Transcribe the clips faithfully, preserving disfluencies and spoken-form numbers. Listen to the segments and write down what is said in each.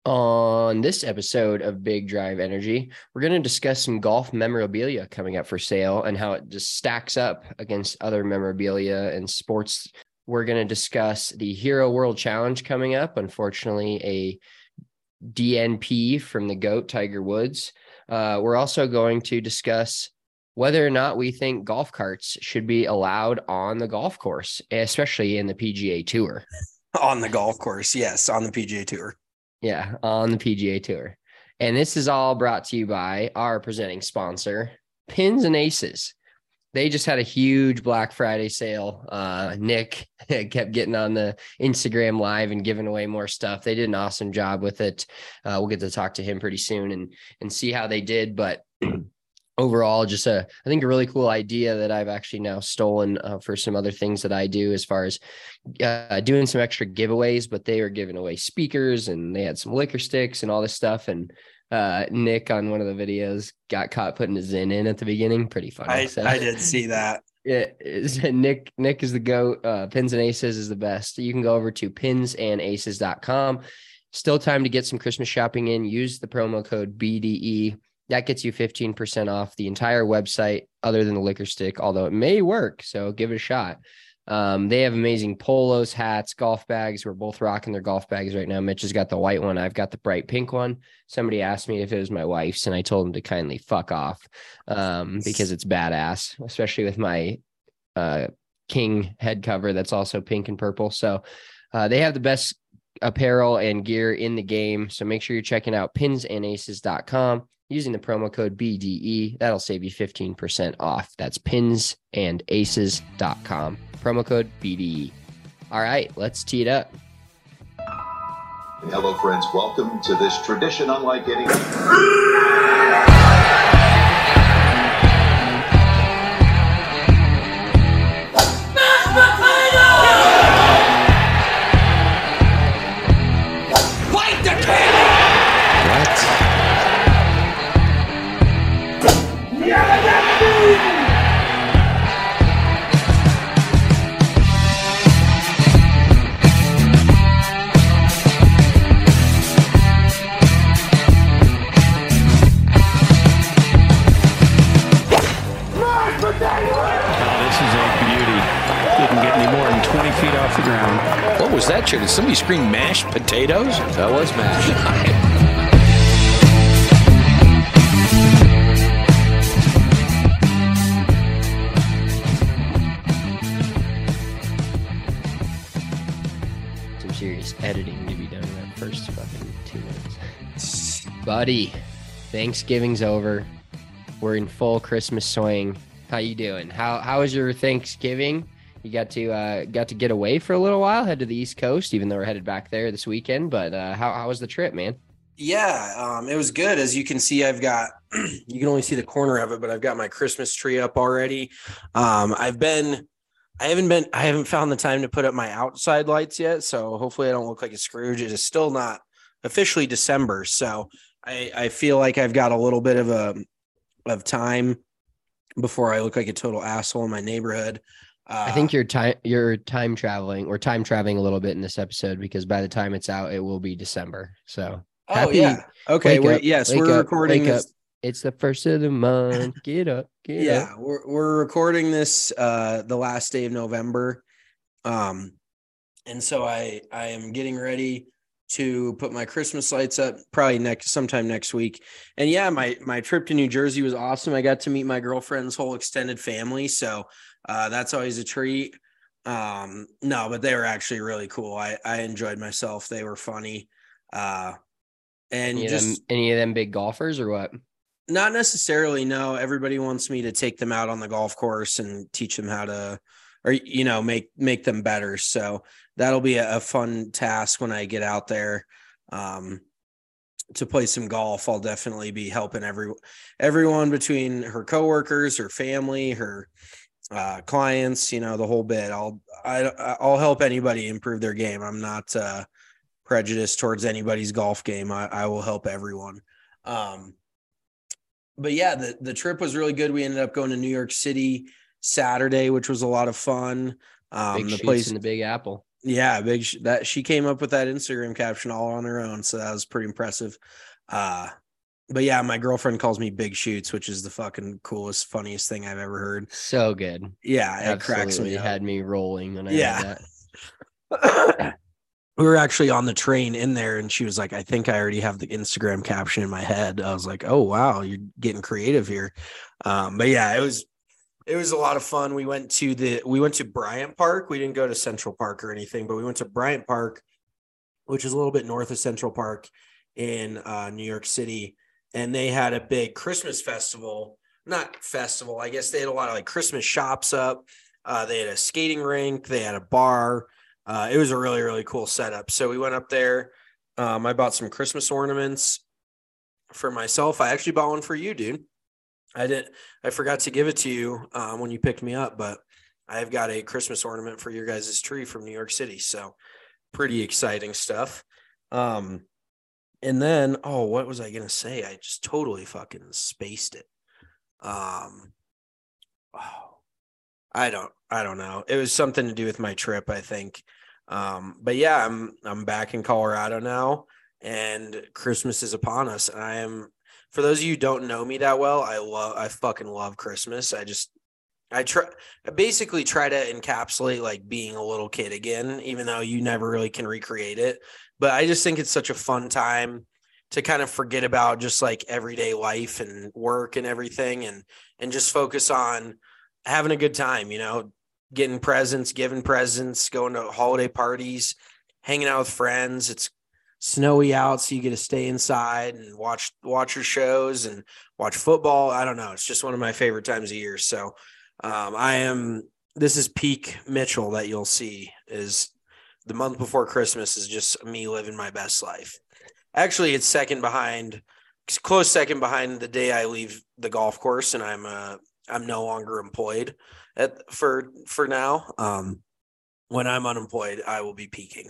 On this episode of Big Drive Energy, we're going to discuss some golf memorabilia coming up for sale and how it just stacks up against other memorabilia and sports. We're going to discuss the Hero World Challenge coming up. Unfortunately, a D N P from the GOAT, Tiger Woods. Uh, we're also going to discuss whether or not we think golf carts should be allowed on the golf course, especially in the P G A Tour. On the golf course, yes, on the P G A Tour. Yeah, on the P G A Tour. And this is all brought to you by our presenting sponsor, Pins and Aces. They just had a huge Black Friday sale. Uh, Nick kept getting on the Instagram live and giving away more stuff. They did an awesome job with it. Uh, we'll get to talk to him pretty soon and, and see how they did. But overall, just a, I think a really cool idea that I've actually now stolen uh, for some other things that I do as far as uh, doing some extra giveaways, but they were giving away speakers and they had some liquor sticks and all this stuff. And uh, Nick on one of the videos got caught putting his Zin in at the beginning. Pretty funny. I, so, I did see that. Yeah, Nick, Nick is the GOAT. Uh, Pins and Aces is the best. You can go over to pins and aces dot com. Still time to get some Christmas shopping in. Use the promo code B D E. That gets you fifteen percent off the entire website other than the liquor stick, although it may work. So give it a shot. Um, they have amazing polos, hats, golf bags. We're both rocking their golf bags right now. Mitch has got the white one. I've got the bright pink one. Somebody asked me if it was my wife's, and I told him to kindly fuck off um, because it's badass, especially with my uh, King head cover that's also pink and purple. So uh, they have the best apparel and gear in the game. So make sure you're checking out pins and aces dot com. Using the promo code B D E, that'll save you fifteen percent off. That's pins and aces dot com. Promo code B D E. All right, let's tee it up. Hello, friends. Welcome to this tradition unlike any. Fight the king! What? What was that, Chair? Did somebody scream mashed potatoes? That was mashed. Some serious editing to be done in that first fucking two minutes. Buddy, Thanksgiving's over. We're in full Christmas swing. How you doing? How How was your Thanksgiving? You got to uh, got to get away for a little while, head to the East Coast, even though we're headed back there this weekend. But uh, how how was the trip, man? Yeah, um, it was good. As you can see, I've got, you can only see the corner of it, but I've got my Christmas tree up already. Um, I've been, I haven't been, I haven't found the time to put up my outside lights yet. So hopefully I don't look like a Scrooge. It is still not officially December. So I, I feel like I've got a little bit of a, of time before I look like a total asshole in my neighborhood. Uh, I think you're time you're time traveling or time traveling a little bit in this episode because by the time it's out, it will be December. So oh happy, yeah, okay. Wake We're, up, yes, wake we're up, recording wake this. up. It's the first of the month. Get up, get Yeah, up. we're we're recording this uh, the last day of November, um, and so I I am getting ready to put my Christmas lights up probably next sometime next week. And yeah, my my trip to New Jersey was awesome. I got to meet my girlfriend's whole extended family, so uh, that's always a treat. Um, no, but they were actually really cool. I, I enjoyed myself. They were funny. Uh, and Any, just of them, any of them big golfers or what? not necessarily. No, everybody wants me to take them out on the golf course and teach them how to, or, you know, make, make them better. So that'll be a, a fun task when I get out there, um, to play some golf. I'll definitely be helping every, everyone between her coworkers, her family, her, uh, clients, you know, the whole bit. I'll, I, I'll help anybody improve their game. I'm not, uh, prejudiced towards anybody's golf game. I, I will help everyone. Um, but yeah, the, the trip was really good. We ended up going to New York City Saturday, which was a lot of fun. Um, Big the shoots place in the Big Apple. Yeah, big sh- that she came up with that Instagram caption all on her own, so that was pretty impressive. Uh but yeah, my girlfriend calls me Big Shoots, which is the fucking coolest, funniest thing I've ever heard. So good. Yeah, it cracks me Absolutely up. had me rolling when I Yeah. read that. We were actually on the train in there, and she was like, I think I already have the Instagram caption in my head. I was like, oh wow, you're getting creative here. Um, but yeah, it was it was a lot of fun. We went to the we went to Bryant Park. We didn't go to Central Park or anything, but we went to Bryant Park, which is a little bit north of Central Park in uh, New York City. And they had a big Christmas festival, not festival. I guess they had a lot of like Christmas shops up. Uh, they had a skating rink. They had a bar. Uh, it was a really, really cool setup. So we went up there. Um, I bought some Christmas ornaments for myself. I actually bought one for you, dude. I didn't, I forgot to give it to you um, when you picked me up, but I've got a Christmas ornament for your guys' tree from New York City. So pretty exciting stuff. Um, and then, oh, what was I going to say? I just totally fucking spaced it. Um, oh, I don't, I don't know. It was something to do with my trip, I think. Um, but yeah, I'm, I'm back in Colorado now, and Christmas is upon us. And I am, for those of you who don't know me that well, I love, I fucking love Christmas. I just, I try, I basically try to encapsulate like being a little kid again, even though you never really can recreate it. But I just think it's such a fun time to kind of forget about just like everyday life and work and everything, and, and just focus on having a good time, you know, getting presents, giving presents, going to holiday parties, hanging out with friends. It's snowy out, so you get to stay inside and watch watch your shows and watch football. I don't know. It's just one of my favorite times of year. So um, I am, this is peak Mitchell that you'll see, is the month before Christmas is just me living my best life. Actually, it's second behind, close second behind the day I leave the golf course and I'm uh, I'm no longer employed at for for now. Um, when I'm unemployed, I will be peaking.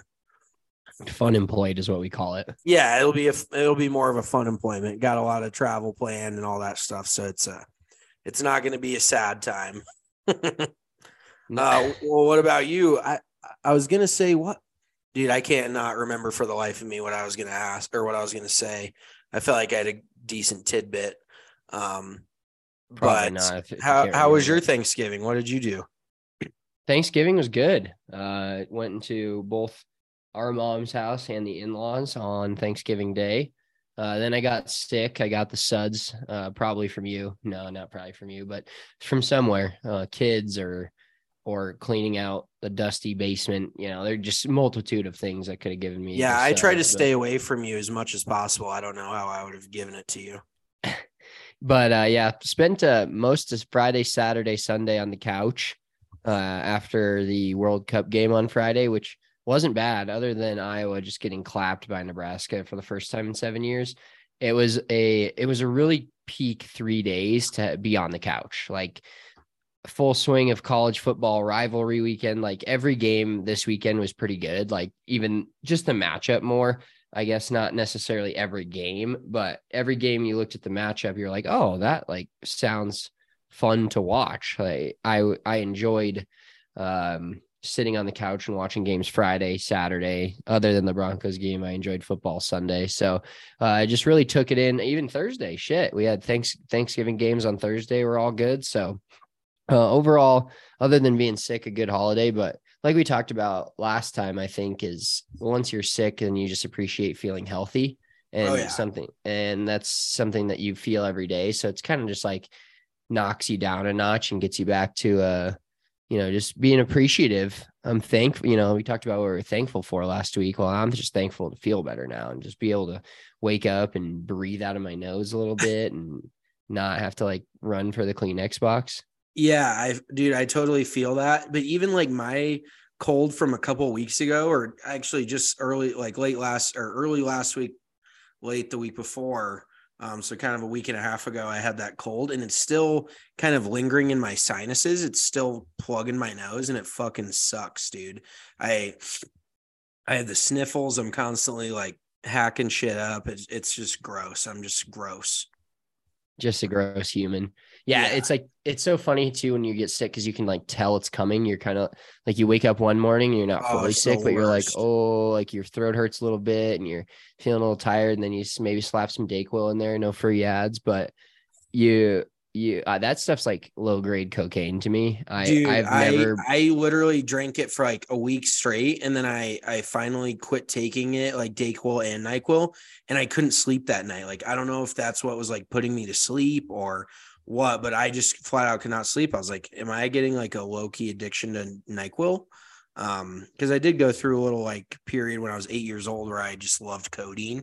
Fun employed is what we call it. Yeah, it'll be a it'll be more of a fun employment. Got a lot of travel planned and all that stuff, so it's a it's not going to be a sad time. uh, well, what about you? I I was gonna say what, dude. I can't not remember for the life of me what I was gonna ask or what I was gonna say. I felt like I had a decent tidbit. Um, Probably but not. If, if you how can't how was your remember. Thanksgiving? What did you do? Thanksgiving was good. Uh, went into both our mom's house and the in-laws on Thanksgiving Day. Uh, then I got sick. I got the suds, uh, probably from you. No, not probably from you, but from somewhere. Uh, kids or or cleaning out the dusty basement. You know, there's just a multitude of things that could have given me. Yeah, the I try to suds, stay but, away from you as much as possible. I don't know how I would have given it to you. but uh, yeah, spent uh, most of Friday, Saturday, Sunday on the couch uh, after the World Cup game on Friday, which wasn't bad other than Iowa just getting clapped by Nebraska for the first time in seven years. It was a, it was a really peak three days to be on the couch, like full swing of college football rivalry weekend. Like every game this weekend was pretty good. Like even just the matchup more, I guess not necessarily every game, but every game you looked at the matchup, you're like, oh, that like sounds fun to watch. Like I, I enjoyed, um, sitting on the couch and watching games Friday, Saturday. Other than the Broncos game, I enjoyed football Sunday. So uh, I just really took it in. Even Thursday, shit, we had thanks Thanksgiving games on Thursday. Were all good. So uh, overall, other than being sick, a good holiday. But like we talked about last time, I think is once you're sick, and you just appreciate feeling healthy and Oh, yeah. something, and that's something that you feel every day. So it's kind of just like knocks you down a notch and gets you back to uh you know, just being appreciative. I'm thankful, you know, we talked about what we were thankful for last week. Well, I'm just thankful to feel better now and just be able to wake up and breathe out of my nose a little bit and not have to like run for the Kleenex box. Yeah, I dude, I totally feel that. But even like my cold from a couple of weeks ago, or actually just early, like late last or early last week, late the week before. Um, so kind of a week and a half ago, I had that cold, and it's still kind of lingering in my sinuses. It's still plugging my nose, and it fucking sucks, dude. I I have the sniffles. I'm constantly like hacking shit up. It's it's just gross. I'm just gross. Just a gross human. Yeah, Yeah. it's like it's so funny too when you get sick because you can like tell it's coming. You're kind of like you wake up one morning and you're not Oh, fully it's the sick, but you're like, worst. oh, like your throat hurts a little bit and you're feeling a little tired, and then you s- maybe slap some Dayquil in there. No free ads, but you you uh, that stuff's like low grade cocaine to me. I Dude, I've I never I literally drank it for like a week straight, and then I I finally quit taking it, like Dayquil and NyQuil, and I couldn't sleep that night. Like I don't know if that's what was like putting me to sleep or what, but I just flat out could not sleep. I was like, am I getting like a low key addiction to NyQuil? Um, because I did go through a little like period when I was eight years old where I just loved codeine.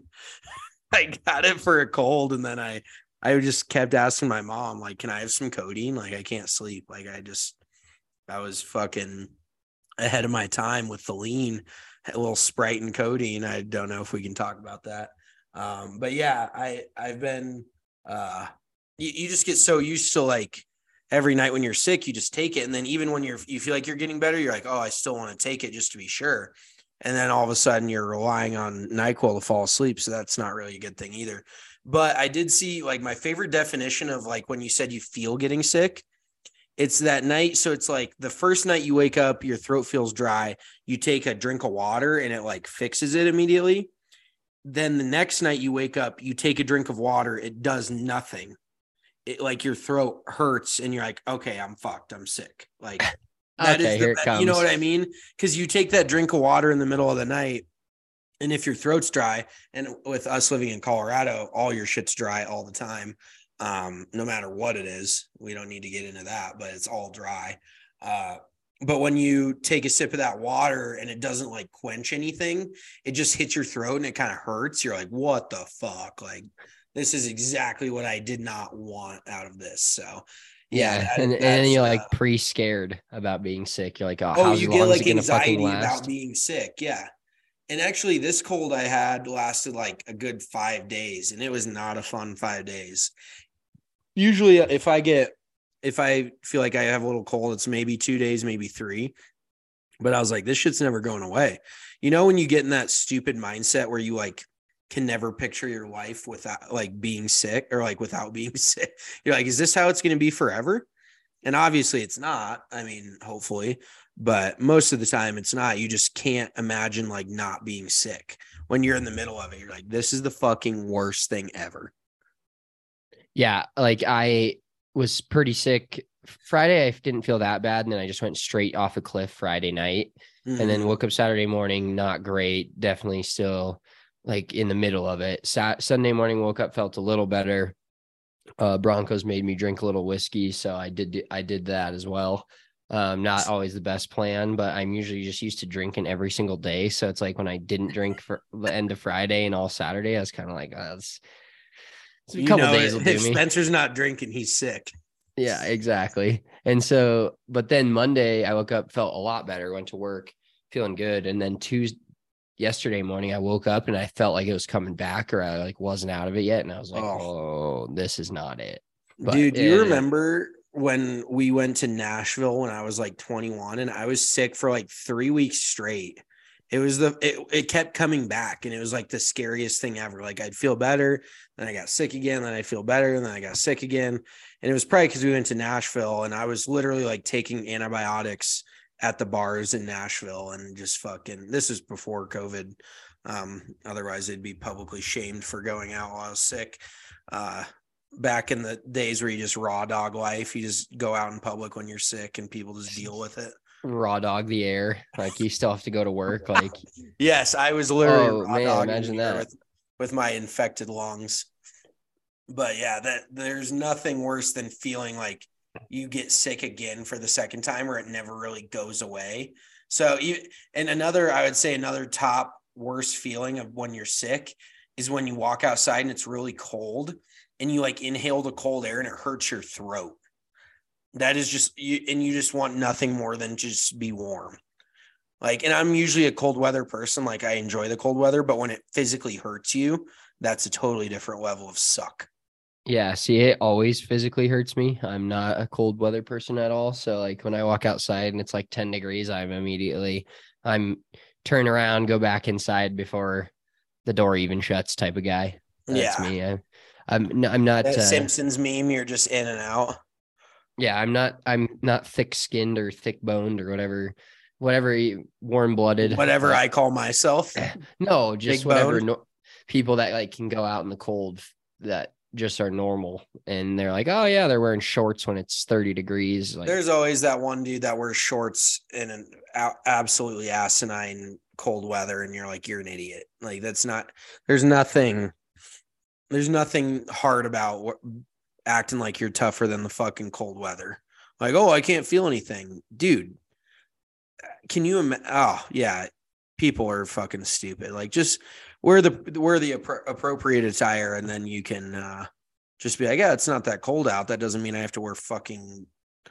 I got it for a cold, and then I I just kept asking my mom, like, can I have some codeine? Like, I can't sleep. Like, I just, I was fucking ahead of my time with the lean, a little Sprite and codeine. I don't know if we can talk about that. Um, but yeah, I, I've been, uh, you, you just get so used to like every night when you're sick, you just take it. And then even when you're, you feel like you're getting better, you're like, oh, I still want to take it just to be sure. And then all of a sudden you're relying on NyQuil to fall asleep. So that's not really a good thing either. But I did see like my favorite definition of like when you said you feel getting sick, it's that night. So it's like the first night you wake up, your throat feels dry. You take a drink of water and it like fixes it immediately. Then the next night you wake up, you take a drink of water. It does nothing. It like your throat hurts and you're like, okay, I'm fucked. I'm sick. Like that okay, is here it the, comes. you know what I mean? Because you take that drink of water in the middle of the night. And if your throat's dry, and with us living in Colorado, all your shit's dry all the time, um, no matter what it is. We don't need to get into that, but it's all dry. Uh, but when you take a sip of that water and it doesn't like quench anything, it just hits your throat and it kind of hurts. You're like, what the fuck? Like, this is exactly what I did not want out of this. So, yeah, yeah, that, and and then you're like uh, pre-scared about being sick. You're like, oh, oh, how you long get is like it gonna fucking anxiety last? about being sick. Yeah. And actually, this cold I had lasted like a good five days, and it was not a fun five days. Usually, if I get, if I feel like I have a little cold, it's maybe two days, maybe three. But I was like, this shit's never going away. You know, when you get in that stupid mindset where you like can never picture your life without like being sick or like without being sick, you're like, is this how it's going to be forever? And obviously, it's not. I mean, hopefully. But most of the time it's not. You just can't imagine like not being sick when you're in the middle of it. You're like, this is the fucking worst thing ever. Yeah. Like I was pretty sick Friday. I didn't feel that bad. And then I just went straight off a cliff Friday night mm-hmm. and then woke up Saturday morning. Not great. Definitely still like in the middle of it. Sat- Sunday morning, woke up, felt a little better. Uh, Broncos made me drink a little whiskey. So I did, I did that as well. Um, not always the best plan, but I'm usually just used to drinking every single day. So it's like when I didn't drink for the end of Friday and all Saturday, I was kind of like, oh, it's, it's a you couple know, days will if do me. Spencer's not drinking, he's sick. Yeah, exactly. And so, but then Monday I woke up, felt a lot better, went to work, feeling good. And then Tuesday, yesterday morning, I woke up and I felt like it was coming back or I like wasn't out of it yet. And I was like, oh, oh this is not it. But dude, do you it, remember when we went to Nashville when I was like twenty-one and I was sick for like three weeks straight? It was the, it, it kept coming back and it was like the scariest thing ever. Like I'd feel better. Then I got sick again. Then I'd feel better. And then I got sick again. And it was probably because we went to Nashville and I was literally like taking antibiotics at the bars in Nashville and just fucking, this is before COVID. Um, otherwise they'd be publicly shamed for going out while I was sick. Uh, back in the days where you just raw dog life, you just go out in public when you're sick and people just deal with it. Raw dog the air. Like you still have to go to work. Like, yes, I was literally oh, raw man, dog imagine that with, with my infected lungs. But yeah, that there's nothing worse than feeling like you get sick again for the second time or it never really goes away. So, and another, I would say another top worst feeling of when you're sick is when you walk outside and it's really cold and you like inhale the cold air and it hurts your throat. That is just you, and you just want nothing more than just be warm. Like, and I'm usually a cold weather person. Like I enjoy the cold weather, but when it physically hurts you, that's a totally different level of suck. Yeah. See, it always physically hurts me. I'm not a cold weather person at all. So like when I walk outside and it's like ten degrees, I'm immediately, I'm turn around, go back inside before the door even shuts type of guy. That's yeah. me. I, I'm no, I'm not That uh, Simpsons meme, you're just in and out. yeah, I'm not I'm not thick skinned or thick boned or whatever, whatever warm blooded. Whatever I call myself. No, just Big whatever boned? no, people that like can go out in the cold that just are normal, and they're like, oh yeah, they're wearing shorts when it's thirty degrees. Like, There's always that one dude that wears shorts in an a- absolutely asinine cold weather, and you're like, you're an idiot. Like, that's not. There's nothing. There's nothing hard about what, acting like you're tougher than the fucking cold weather. Like, oh, I can't feel anything, dude. Can you imagine? Oh yeah, people are fucking stupid. Like, just wear the wear the appro- appropriate attire, and then you can uh, just be like, yeah, it's not that cold out. That doesn't mean I have to wear fucking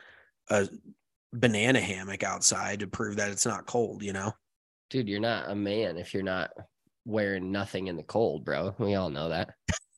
a banana hammock outside to prove that it's not cold. You know, dude, you're not a man if you're not wearing nothing in the cold, bro. We all know that.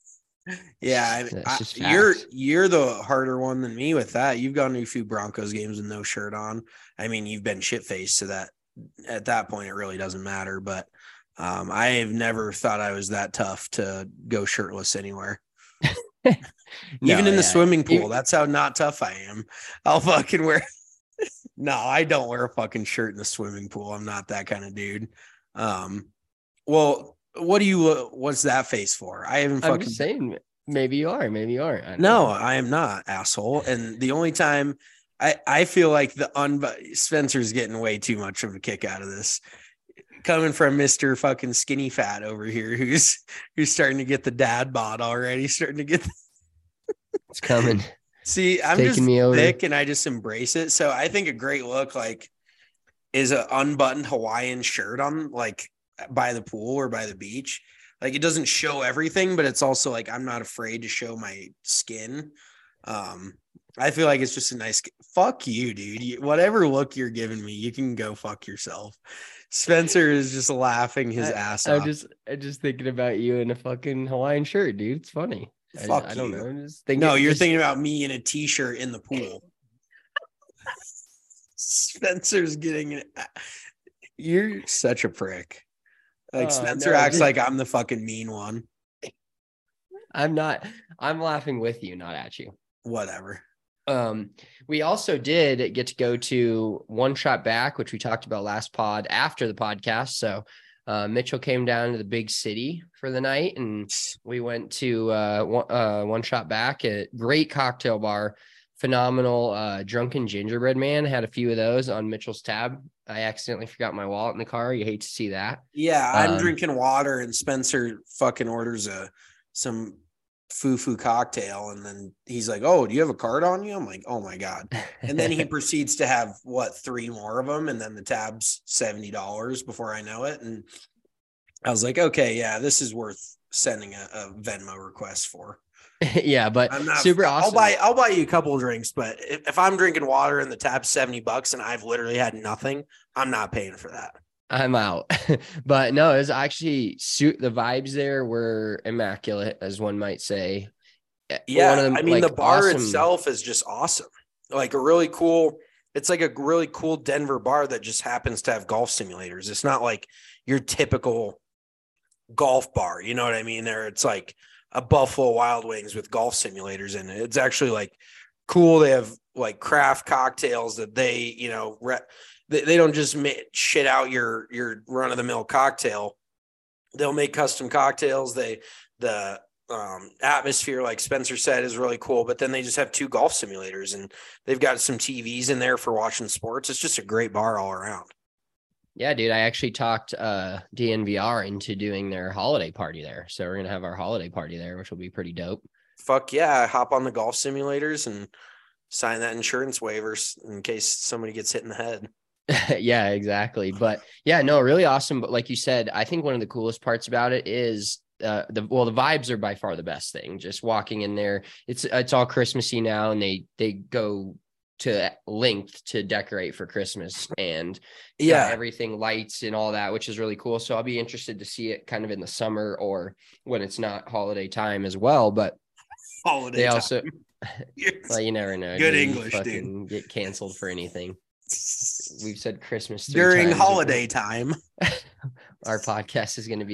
Yeah, I, That's I, just you're facts. you're the harder one than me with that. You've gone to a few Broncos games with no shirt on. I mean, you've been shit faced, so that at that point it really doesn't matter. But um, I have never thought I was that tough to go shirtless anywhere. No, Even in yeah. the swimming pool, Even- that's how not tough I am. I'll fucking wear. No, I don't wear a fucking shirt in the swimming pool. I'm not that kind of dude. Um, well. What do you? Uh, what's that face for? I haven't I'm fucking. just saying, maybe you are, maybe you aren't. I don't No, know. I am not, asshole. And the only time I I feel like the un Spencer's getting way too much of a kick out of this, coming from Mister fucking skinny fat over here, who's who's starting to get the dad bod already, starting to get. The... It's coming. See, I'm taking just me over. thick, and I just embrace it. So I think a great look like is an unbuttoned Hawaiian shirt on, like, by the pool or by the beach. Like, it doesn't show everything, but it's also like I'm not afraid to show my skin. Um, I feel like it's just a nice fuck you, dude. You, whatever look you're giving me, you can go fuck yourself. Spencer is just laughing his I, ass I'm off. just I'm just thinking about you in a fucking Hawaiian shirt, dude. It's funny. I- Fuck I, don't you. know. I'm just thinking, No, you're just- thinking about me in a t-shirt in the pool. Spencer's getting it. You're such a prick. Like, Oh, Spencer no, acts just- like I'm the fucking mean one. I'm not. I'm laughing with you, not at you. Whatever. Um, we also did get to go to One Shot Back, which we talked about last pod after the podcast. So uh, Mitchell came down to the big city for the night, and we went to uh, one, uh, One Shot Back, a great cocktail bar, phenomenal. Uh, Drunken Gingerbread Man had a few of those on Mitchell's tab. I accidentally forgot my wallet in the car. You hate to see that. Yeah, I'm Um, drinking water, and Spencer fucking orders a some foo-foo cocktail, and then he's like, "Oh, do you have a card on you?" I'm like, "Oh my god!" And then he proceeds to have what three more of them, and then the tab's seventy dollars before I know it. And I was like, "Okay, yeah, this is worth sending a, a Venmo request for." Yeah, but I'm not super I'll awesome. buy I'll buy you a couple of drinks, but if, if I'm drinking water and the tab's seventy bucks and I've literally had nothing, I'm not paying for that. I'm out. But no, it was actually suit the vibes there were immaculate, as one might say. Yeah, One of them, I mean, like, the bar awesome- itself is just awesome. Like a really cool, it's like a really cool Denver bar that just happens to have golf simulators. It's not like your typical golf bar. You know what I mean? There, it's like a Buffalo Wild Wings with golf simulators in it. It's actually like cool. They have like craft cocktails that they, you know, re- they, they don't just make, shit out your your run of the mill cocktail. They'll make custom cocktails. They the um, atmosphere, like Spencer said, is really cool. But then they just have two golf simulators, and they've got some T Vs in there for watching sports. It's just a great bar all around. Yeah, dude, I actually talked uh, D N V R into doing their holiday party there. So we're going to have our holiday party there, which will be pretty dope. Fuck yeah. Hop on the golf simulators and sign that insurance waivers in case somebody gets hit in the head. Yeah, exactly. But yeah, no, really awesome. But like you said, I think one of the coolest parts about it is uh, the, well, the vibes are by far the best thing. Just walking in there, it's, it's all Christmassy now, and they, they go to length to decorate for Christmas, and Yeah. everything lights and all that, which is really cool. So I'll be interested to see it kind of in the summer or when it's not holiday time as well. But Holiday they time. also, Yes. well, you never know. Good dude. You English, fucking get canceled for anything. We've said Christmas three During times. holiday time. Our podcast is going to be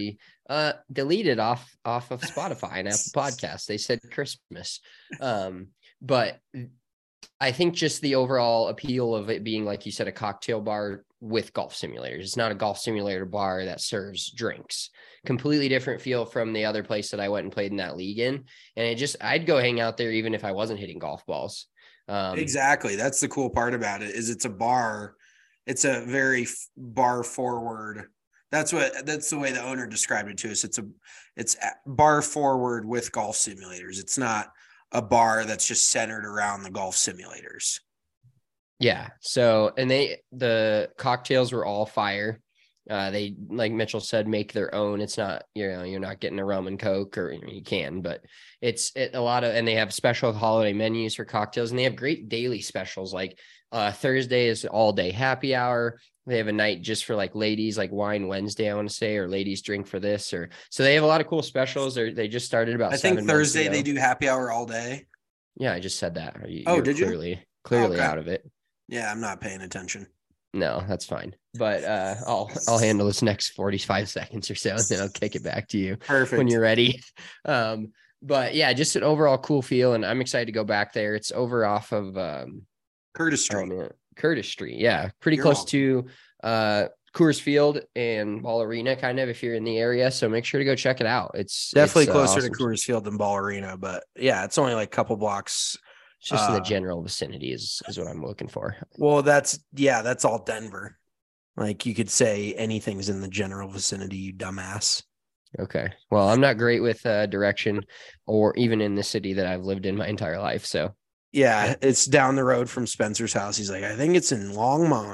Uh, deleted off off of Spotify and Apple Podcasts. They said Christmas. Um, but I think just the overall appeal of it being, like you said, a cocktail bar with golf simulators. It's not a golf simulator bar that serves drinks. Completely different feel from the other place that I went and played in that league in. And it just, I'd go hang out there even if I wasn't hitting golf balls. Um, exactly. That's the cool part about it, is it's a bar. It's a very bar forward. That's what, that's the way the owner described it to us. It's a, it's a bar forward with golf simulators. It's not a bar that's just centered around the golf simulators. Yeah. So, and they, the cocktails were all fire. Uh, they, like Mitchell said, make their own. It's not, you know, you're not getting a rum and Coke, or you can, but it's it, a lot of, and they have special holiday menus for cocktails, and they have great daily specials. Like uh, Thursday is all day happy hour. They have a night just for like ladies, like Wine Wednesday, I want to say, or ladies drink for this, or so they have a lot of cool specials. They they just started about. I think Thursday they do happy hour all day. Yeah, I just said that. You, oh, did clearly, you? Clearly okay. out of it. Yeah, I'm not paying attention. No, that's fine. But uh, I'll I'll handle this next forty-five seconds or so, and then I'll kick it back to you. Perfect. When you're ready. Um, but yeah, just an overall cool feel, and I'm excited to go back there. It's over off of um, Curtis Street. Oh, man. Curtis Street, yeah, pretty You're close welcome. to uh, Coors Field and Ball Arena, kind of, if you're in the area. So make sure to go check it out. It's definitely it's, closer uh, awesome. to Coors Field than Ball Arena, but yeah, it's only like a couple blocks. It's just uh, in the uh, general vicinity is is what I'm looking for. Well, that's yeah, that's all Denver. Like you could say anything's in the general vicinity, you dumbass. Okay. Well, I'm not great with uh, direction, or even in the city that I've lived in my entire life. So yeah, it's down the road from Spencer's house. He's like, I think it's in Longmont.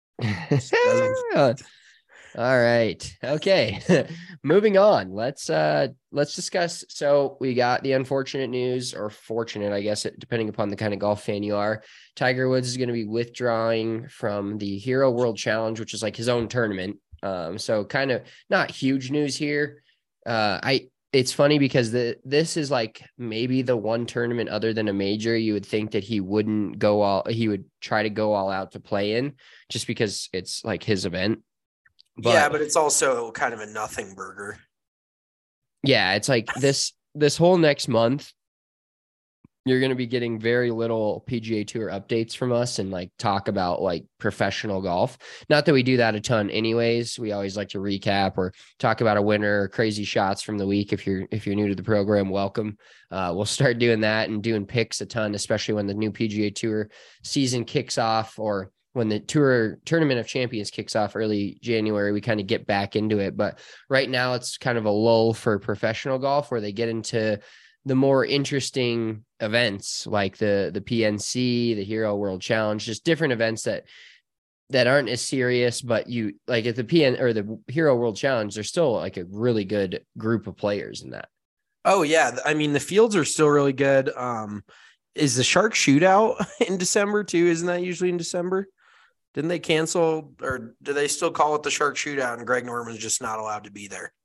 All right. Okay. Moving on. Let's uh let's discuss. So we got the unfortunate news, or fortunate, I guess, depending upon the kind of golf fan you are. Tiger Woods is going to be withdrawing from the Hero World Challenge, which is like his own tournament. Um, so kind of not huge news here. Uh I it's funny because the this is like maybe the one tournament other than a major you would think that he wouldn't go all he would try to go all out to play in, just because it's like his event. But, yeah, but it's also kind of a nothing burger. Yeah, it's like this this whole next month, you're going to be getting very little P G A Tour updates from us and like talk about like professional golf. Not that we do that a ton anyways. We always like to recap or talk about a winner or crazy shots from the week. If you're if you're new to the program, welcome. Uh, we'll start doing that and doing picks a ton, especially when the new P G A Tour season kicks off, or when the tour Tournament of Champions kicks off early January. We kind of get back into it. But right now it's kind of a lull for professional golf, where they get into the more interesting events like the, the P N C, the Hero World Challenge, just different events that, that aren't as serious, but you like at the P N or the Hero World Challenge, there's still like a really good group of players in that. Oh yeah. I mean, the fields are still really good. Um, is the Shark Shootout in December too? Isn't that usually in December? Didn't they cancel, or do they still call it the Shark Shootout and Greg Norman's just not allowed to be there?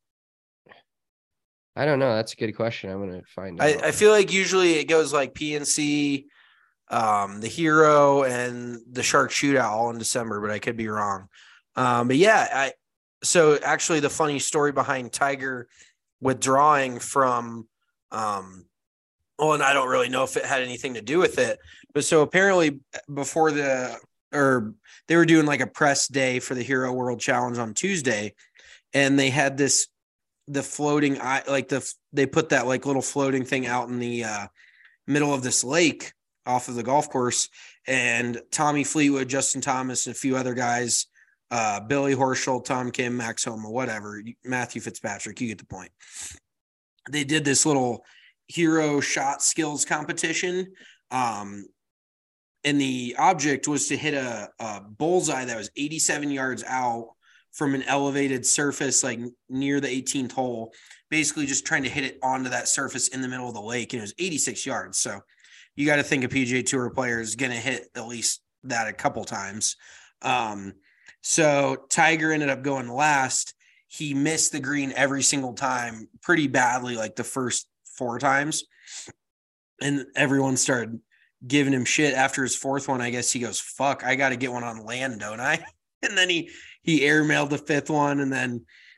I don't know. That's a good question. I'm going to find out. I, I feel like usually it goes like P N C, um, the Hero, and the Shark Shootout all in December, but I could be wrong. Um, but yeah, I so actually the funny story behind Tiger withdrawing from, um, well, and I don't really know if it had anything to do with it, but so apparently before the or they were doing like a press day for the Hero World Challenge on Tuesday, and they had this, the floating eye, like the, they put that like little floating thing out in the uh, middle of this lake off of the golf course. And Tommy Fleetwood, Justin Thomas, and a few other guys, uh, Billy Horschel, Tom Kim, Max Homa, whatever, Matthew Fitzpatrick, you get the point. They did this little hero shot skills competition. Um, And the object was to hit a, a bullseye that was eighty-seven yards out from an elevated surface, like near the eighteenth hole, basically just trying to hit it onto that surface in the middle of the lake. And it was eighty-six yards. So you got to think a P G A Tour player is going to hit at least that a couple times. Um, so Tiger ended up going last. He missed the green every single time pretty badly, like the first four times. And everyone started giving him shit after his fourth one. I guess he goes, fuck, I got to get one on land, don't I? And then he, he airmailed the fifth one. And then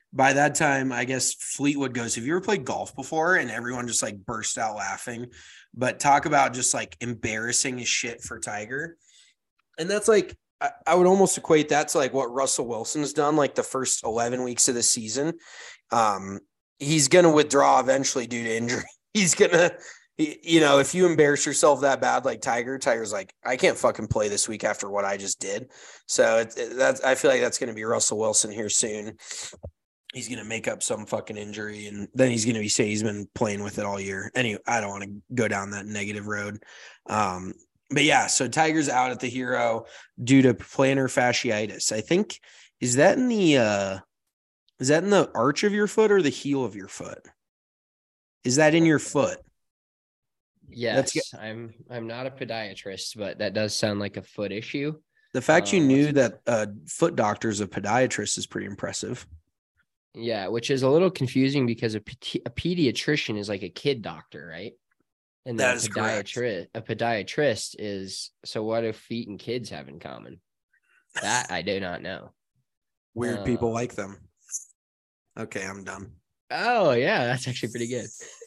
by that time, I guess Fleetwood goes, have you ever played golf before? And everyone just like burst out laughing. But talk about just like embarrassing as shit for Tiger. And that's like, I, I would almost equate that to like what Russell Wilson's done like the first eleven weeks of the season. Um, he's going to withdraw eventually due to injury. He's going to, you know, if you embarrass yourself that bad, like Tiger, Tiger's like, I can't fucking play this week after what I just did. So it, it, that's, I feel like that's going to be Russell Wilson here soon. He's going to make up some fucking injury, and then he's going to be saying he's been playing with it all year. Anyway, I don't want to go down that negative road. Um, but yeah, so Tiger's out at the Hero due to plantar fasciitis. I think, is that in the, uh, is that in the arch of your foot or the heel of your foot? Is that in your foot? Yes, get, I'm I'm not a podiatrist, but that does sound like a foot issue. The fact um, you knew that a uh, foot doctor's a podiatrist is pretty impressive. Yeah, which is a little confusing because a, a pediatrician is like a kid doctor, right? And that a is podiatrist, correct. A podiatrist is, so what do feet and kids have in common? That I do not know. Weird uh, people like them. Okay, I'm done. Oh, yeah, that's actually pretty good.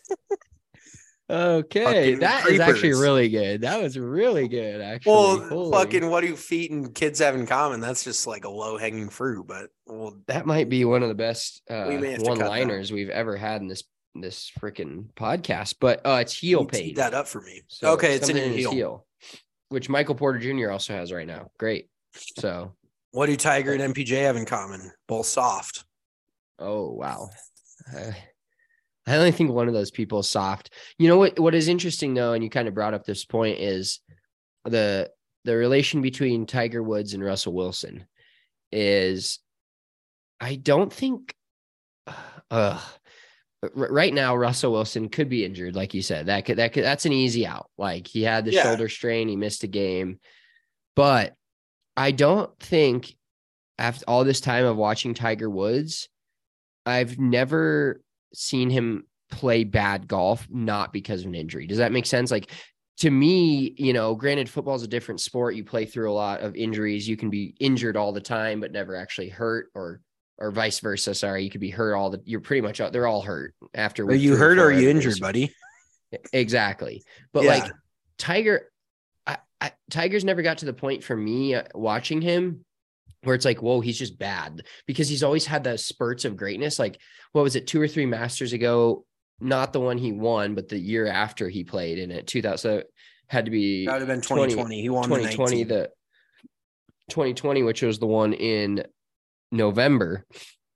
Okay, fucking that creepers. is actually really good. That was really good, actually. Well, Holy. fucking what do feet and kids have in common? That's just like a low-hanging fruit, but well, that might be one of the best uh, we one-liners we've ever had in this this freaking podcast. But uh, it's heel pain. Eat that up for me. So okay, it's in his heel. heel, which Michael Porter Junior also has right now. Great. So, what do Tiger and M P J have in common? Both soft. Oh wow. Uh, I only think one of those people is soft. You know what? What is interesting though, and you kind of brought up this point, is the the relation between Tiger Woods and Russell Wilson. Is I don't think. Uh, right now, Russell Wilson could be injured, like you said. That could that could that's an easy out. Like he had the yeah. shoulder strain, he missed a game, but I don't think after all this time of watching Tiger Woods, I've never seen him play bad golf, not because of an injury. Does that make sense? Like to me, you know, granted football is a different sport. You play through a lot of injuries. You can be injured all the time, but never actually hurt, or, or vice versa. Sorry. You could be hurt all the, you're pretty much, they're all hurt after. Are you hurt or are you injured, buddy? Exactly. But yeah. like Tiger, I, I, Tiger's never got to the point for me uh, watching him where it's like, whoa, he's just bad, because he's always had the spurts of greatness. Like, what was it, two or three Masters ago? Not the one he won, but the year after he played in it, two thousand. So it had to be that would have been twenty twenty. He won twenty twenty, the, the twenty twenty, which was the one in November.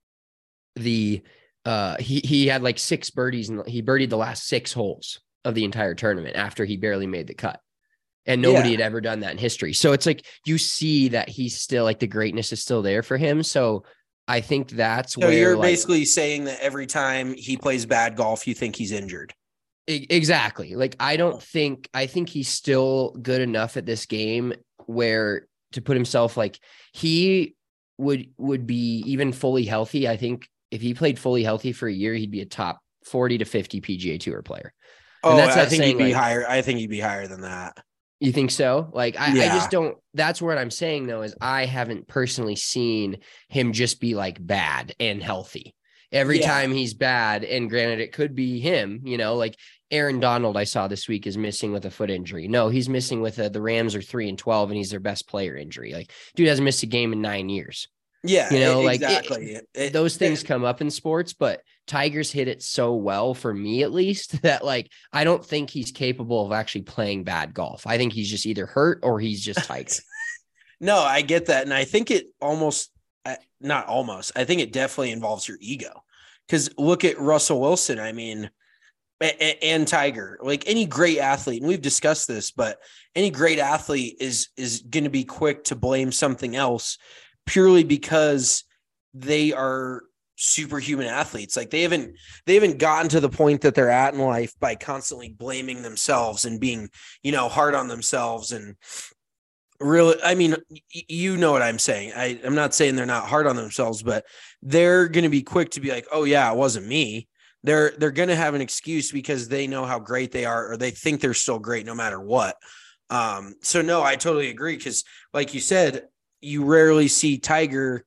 The uh, he he had like six birdies, and he birdied the last six holes of the entire tournament after he barely made the cut. And nobody yeah. had ever done that in history. So it's like, you see that he's still like the greatness is still there for him. So I think that's so where you're like, basically saying that every time he plays bad golf, you think he's injured. Exactly. Like, I don't think, I think he's still good enough at this game where to put himself, like he would, would be even fully healthy. I think if he played fully healthy for a year, he'd be a top forty to fifty P G A Tour player. Oh, and that's I think saying, he'd be like, higher. I think he'd be higher than that. You think so? Like, I, yeah. I just don't, that's what I'm saying though, is I haven't personally seen him just be like bad and healthy every yeah. time he's bad. And granted, it could be him, you know, like Aaron Donald, I saw this week, is missing with a foot injury. No, he's missing with a, the Rams are three and twelve and he's their best player injury. Like, dude hasn't missed a game in nine years. Yeah. You know, exactly. like it, it, those things it, come up in sports, but Tiger's hit it so well, for me at least, that like, I don't think he's capable of actually playing bad golf. I think he's just either hurt or he's just Tiger. No, I get that. And I think it almost, not almost, I think it definitely involves your ego. Because look at Russell Wilson. I mean, and, and Tiger, like any great athlete, and we've discussed this, but any great athlete is, is going to be quick to blame something else purely because they are superhuman athletes. Like they haven't, they haven't gotten to the point that they're at in life by constantly blaming themselves and being, you know, hard on themselves. And really, I mean, you know what I'm saying. I, I'm not saying they're not hard on themselves, but they're going to be quick to be like, oh yeah, it wasn't me. They're, they're going to have an excuse because they know how great they are, or they think they're still great no matter what. Um, so no, I totally agree. Cause like you said, you rarely see Tiger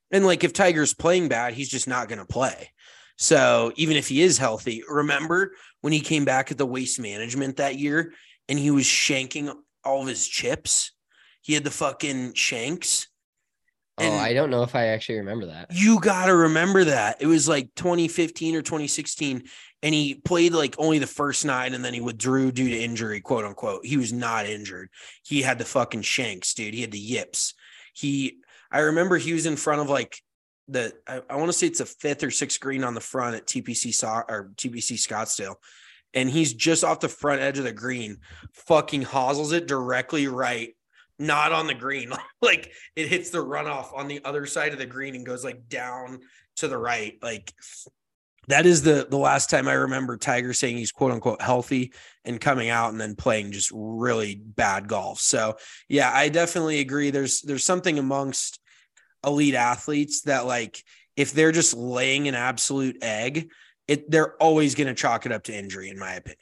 And like if Tiger's playing bad, he's just not going to play. So even if he is healthy, remember when he came back at the Waste Management that year and he was shanking all of his chips? He had the fucking shanks. And oh, I don't know if I actually remember that. You got to remember that. It was like twenty fifteen or twenty sixteen, and he played like only the first nine, and then he withdrew due to injury, quote unquote. He was not injured. He had the fucking shanks, dude. He had the yips. He, I remember he was in front of like the, I, I want to say it's a fifth or sixth green on the front at T P C so- or T P C Scottsdale. And he's just off the front edge of the green, fucking hosels it directly right. Not on the green. Like it hits the runoff on the other side of the green and goes like down to the right. Like that is the, the last time I remember Tiger saying he's quote unquote healthy and coming out and then playing just really bad golf. So yeah, I definitely agree. There's, there's something amongst elite athletes that like, if they're just laying an absolute egg, it, they're always going to chalk it up to injury, in my opinion.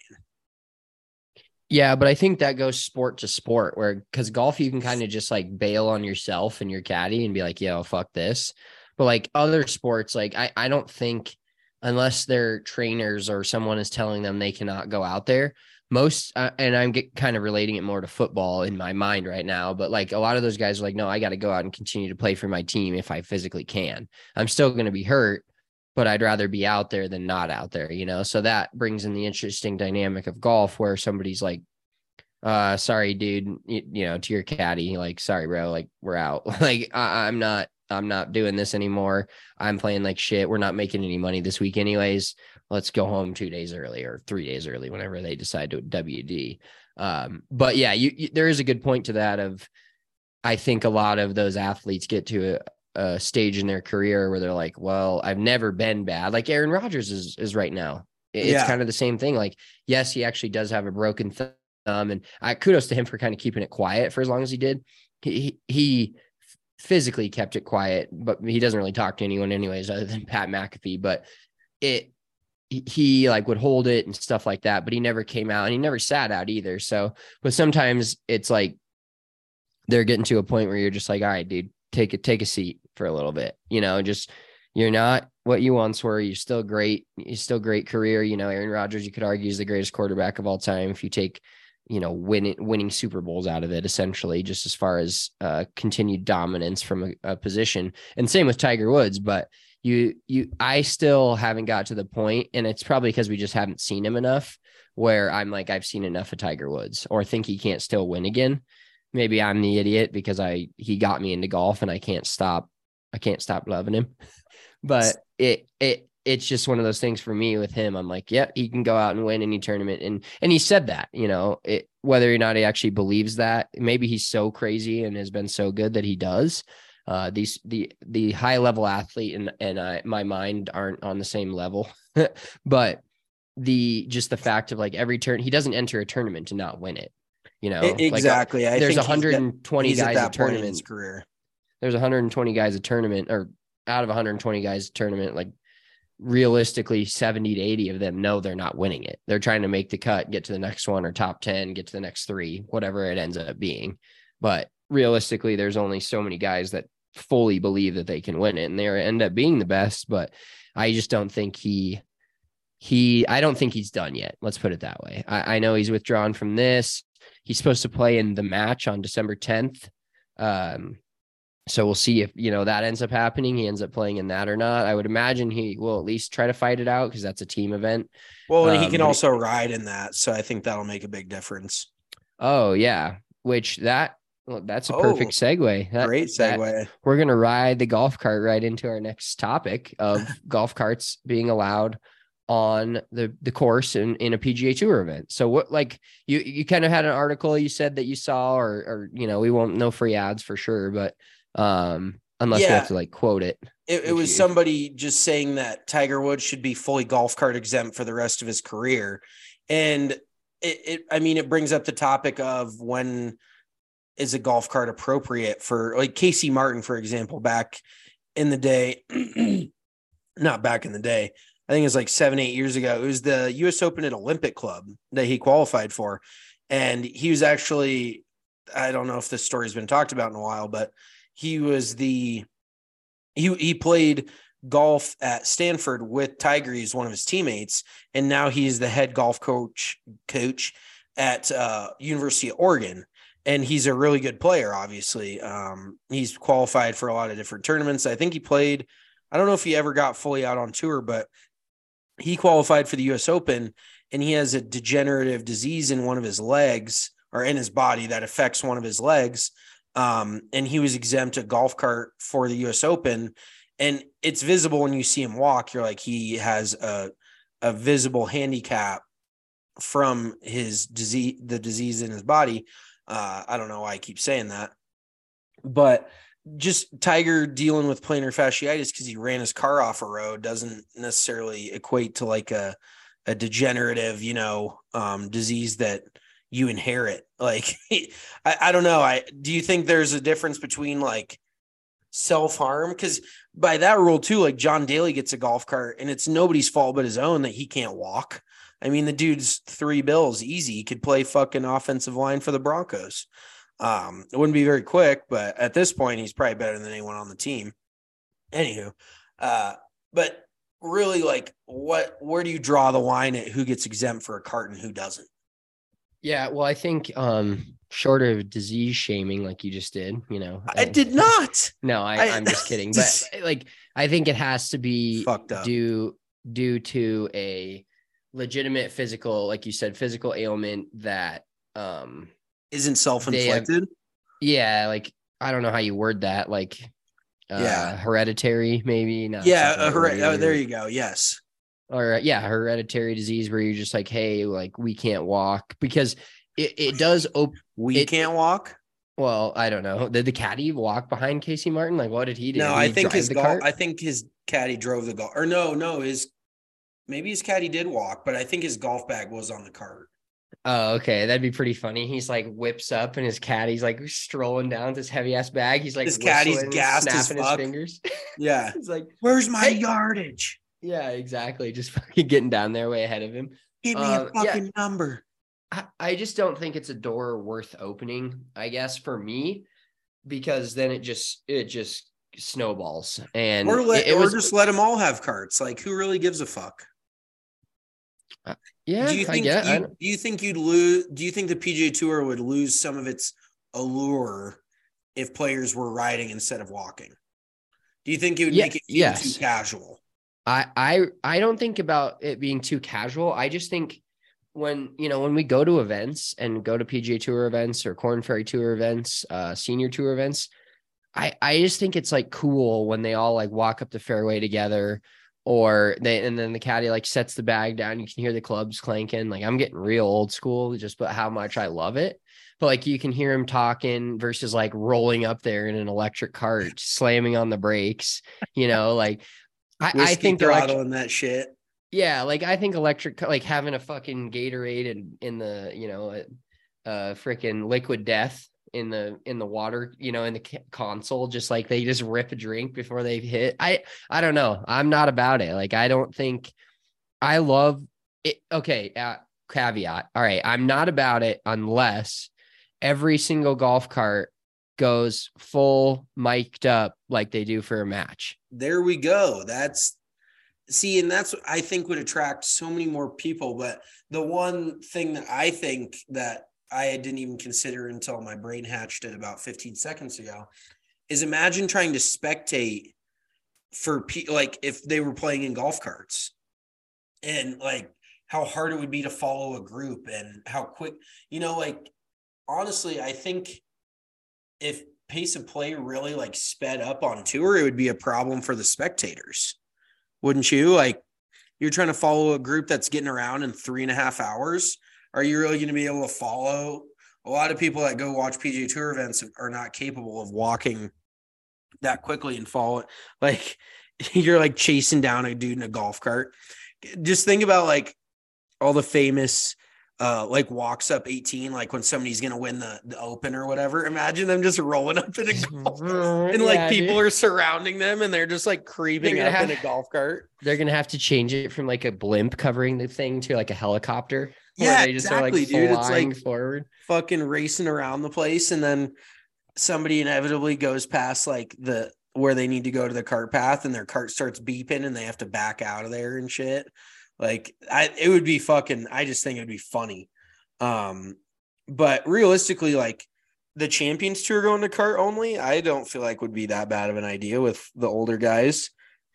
Yeah, but I think that goes sport to sport where, because golf, you can kind of just like bail on yourself and your caddy and be like, yo, fuck this. But like other sports, like I, I don't think unless they're trainers or someone is telling them they cannot go out there, most, uh, and I'm get, kind of relating it more to football in my mind right now, but like a lot of those guys are like, no, I got to go out and continue to play for my team if I physically can. I'm still going to be hurt, but I'd rather be out there than not out there, you know? So that brings in the interesting dynamic of golf where somebody's like, uh, sorry, dude, you, you know, to your caddy, like, sorry, bro, like we're out. Like, I, I'm not, I'm not doing this anymore. I'm playing like shit. We're not making any money this week anyways. Let's go home two days early or three days early, whenever they decide to W D. Um, but yeah, you, you, there is a good point to that of, I think a lot of those athletes get to a, a stage in their career where they're like, well, I've never been bad. Like Aaron Rodgers is, is right now. It's yeah. kind of the same thing. Like, yes, he actually does have a broken thumb, and I kudos to him for kind of keeping it quiet for as long as he did. He, he physically kept it quiet, but he doesn't really talk to anyone anyways, other than Pat McAfee, but it, he like would hold it and stuff like that, but he never came out and he never sat out either. So, but sometimes it's like, they're getting to a point where you're just like, all right, dude, take it, take a seat for a little bit, you know, just, you're not what you once were. You're still great. You're still great career. You know, Aaron Rodgers, you could argue, is the greatest quarterback of all time. If you take, you know, winning, winning Super Bowls out of it, essentially, just as far as uh, continued dominance from a, a position, and same with Tiger Woods. But you, you, I still haven't got to the point, and it's probably because we just haven't seen him enough where I'm like, I've seen enough of Tiger Woods, or think he can't still win again. Maybe I'm the idiot because I, he got me into golf and I can't stop. I can't stop loving him, but it, it, it's just one of those things for me with him. I'm like, yeah, he can go out and win any tournament. And, and he said that, you know, it, whether or not he actually believes that, maybe he's so crazy and has been so good that he does. Uh, these, the, the high level athlete and, and I, my mind aren't on the same level, but the, just the fact of like every turn, he doesn't enter a tournament to not win it. You know, exactly. Like, I there's think one hundred twenty he's at, he's guys at a tournament in his career. There's one hundred twenty guys a tournament, or out of one hundred twenty guys a tournament, like realistically seventy to eighty of them know they're not winning it. They're trying to make the cut, get to the next one, or top ten, get to the next three, whatever it ends up being. But realistically, there's only so many guys that fully believe that they can win it, and they end up being the best. But I just don't think he, he, I don't think he's done yet. Let's put it that way. I, I know he's withdrawn from this. He's supposed to play in the match on December tenth. Um, so we'll see if, you know, that ends up happening. He ends up playing in that or not. I would imagine he will at least try to fight it out because that's a team event. Well, and he um, can also he, ride in that. So I think that'll make a big difference. Oh, yeah. Which that, well, that's a oh, perfect segue. That, great segue. That, we're going to ride the golf cart right into our next topic of golf carts being allowed on the, the course in, in a P G A Tour event. So what, like you, you kind of had an article you said that you saw, or, or, you know, we won't know free ads for sure, but um, unless yeah. we have to like quote it. It, it was you. somebody just saying that Tiger Woods should be fully golf cart exempt for the rest of his career. And it, it, I mean, it brings up the topic of when is a golf cart appropriate for, like, Casey Martin, for example, back in the day, not back in the day, I think it was like seven, eight years ago. It was the U S Open at Olympic Club that he qualified for. And he was actually, I don't know if this story's been talked about in a while, but he was the he he played golf at Stanford with Tiger. He's one of his teammates, and now he's the head golf coach coach at uh, University of Oregon. And he's a really good player, obviously. Um, he's qualified for a lot of different tournaments. I think he played, I don't know if he ever got fully out on tour, but he qualified for the U S Open, and he has a degenerative disease in one of his legs or in his body that affects one of his legs. Um, and he was exempt a golf cart for the U S Open. And it's visible when you see him walk. You're like, he has a, a visible handicap from his disease, the disease in his body. Uh, I don't know why I keep saying that, but just Tiger dealing with plantar fasciitis because he ran his car off a road doesn't necessarily equate to like a, a degenerative, you know, um, disease that you inherit. Like, I, I don't know. I, do you think there's a difference between like self-harm? Because by that rule too, like John Daly gets a golf cart and it's nobody's fault but his own that he can't walk. I mean, the dude's three bills easy. He could play fucking offensive line for the Broncos. Um, it wouldn't be very quick, but at this point, he's probably better than anyone on the team. Anywho, uh, but really, like, what? Where do you draw the line at who gets exempt for a cart and who doesn't? Yeah, well, I think um, short of disease shaming, like you just did, you know, I, I did not. No, I, I, I'm just kidding. But like, I think it has to be fucked up due due to a legitimate physical, like you said, physical ailment that um isn't self-inflicted. Have, yeah, like I don't know how you word that, like uh yeah, hereditary, maybe not. Yeah, her- oh, there you go. Yes. Or yeah, hereditary disease where you're just like, hey, like we can't walk because it, it does open. We it, can't walk. Well, I don't know. Did the caddy walk behind Casey Martin? Like, what did he do? No, did I he think his the golf. cart? I think his caddy drove the golf. Or no, no, his maybe his caddy did walk, but I think his golf bag was on the cart. Oh, okay. That'd be pretty funny. He's like whips up and his caddy's like strolling down with this heavy ass bag. He's like his caddy's gassed as snapping fuck. his fingers. Yeah. He's like, where's my hey. yardage? Yeah, exactly. Just fucking getting down there way ahead of him. Give me uh, a fucking yeah. number. I, I just don't think it's a door worth opening, I guess, for me, because then it just it just snowballs. And or let, it, it or was just let them all have carts. Like, who really gives a fuck? Uh, yeah, do you think I get, you, I do you think you'd lose? Do you think the P G A Tour would lose some of its allure if players were riding instead of walking? Do you think it would yeah, make it feel yes. too casual? I, I I don't think about it being too casual. I just think when, you know, when we go to events and go to P G A Tour events or Korn Ferry Tour events, uh, senior tour events, I, I just think it's like cool when they all like walk up the fairway together, or they, and then the caddy like sets the bag down. You can hear the clubs clanking. Like, I'm getting real old school just but how much I love it. But like, you can hear him talking versus like rolling up there in an electric cart, slamming on the brakes, you know, like, I, I think throttling that shit. Yeah, like I think electric, like having a fucking Gatorade in, in the, you know, uh, freaking liquid death in the in the water, you know, in the console, just like they just rip a drink before they hit. I I don't know. I'm not about it. Like, I don't think I love it. Okay, uh, caveat. All right, I'm not about it unless every single golf cart goes full mic'd up like they do for a match. There we go. That's see, and that's what I think would attract so many more people. But the one thing that I think that I didn't even consider until my brain hatched it about fifteen seconds ago is imagine trying to spectate for pe- like if they were playing in golf carts, and like how hard it would be to follow a group and how quick, you know, like honestly, I think if pace of play really like sped up on tour, it would be a problem for the spectators. Wouldn't you? Like, you're trying to follow a group that's getting around in three and a half hours. Are you really going to be able to follow? A lot of people that go watch P G A Tour events are not capable of walking that quickly and follow it. Like, you're like chasing down a dude in a golf cart. Just think about like all the famous uh like walks up eighteen, like when somebody's gonna win the, the open or whatever. Imagine them just rolling up in a golf cart and like yeah, people dude. are surrounding them and they're just like creeping up have, in a golf cart. They're gonna have to change it from like a blimp covering the thing to like a helicopter. Yeah, they just exactly, are like dude. It's like forward, fucking racing around the place, and then somebody inevitably goes past like the where they need to go to the cart path and their cart starts beeping and they have to back out of there and shit. Like I, it would be fucking, I just think it'd be funny. Um, but realistically, like the Champions Tour going to cart only, I don't feel like would be that bad of an idea with the older guys.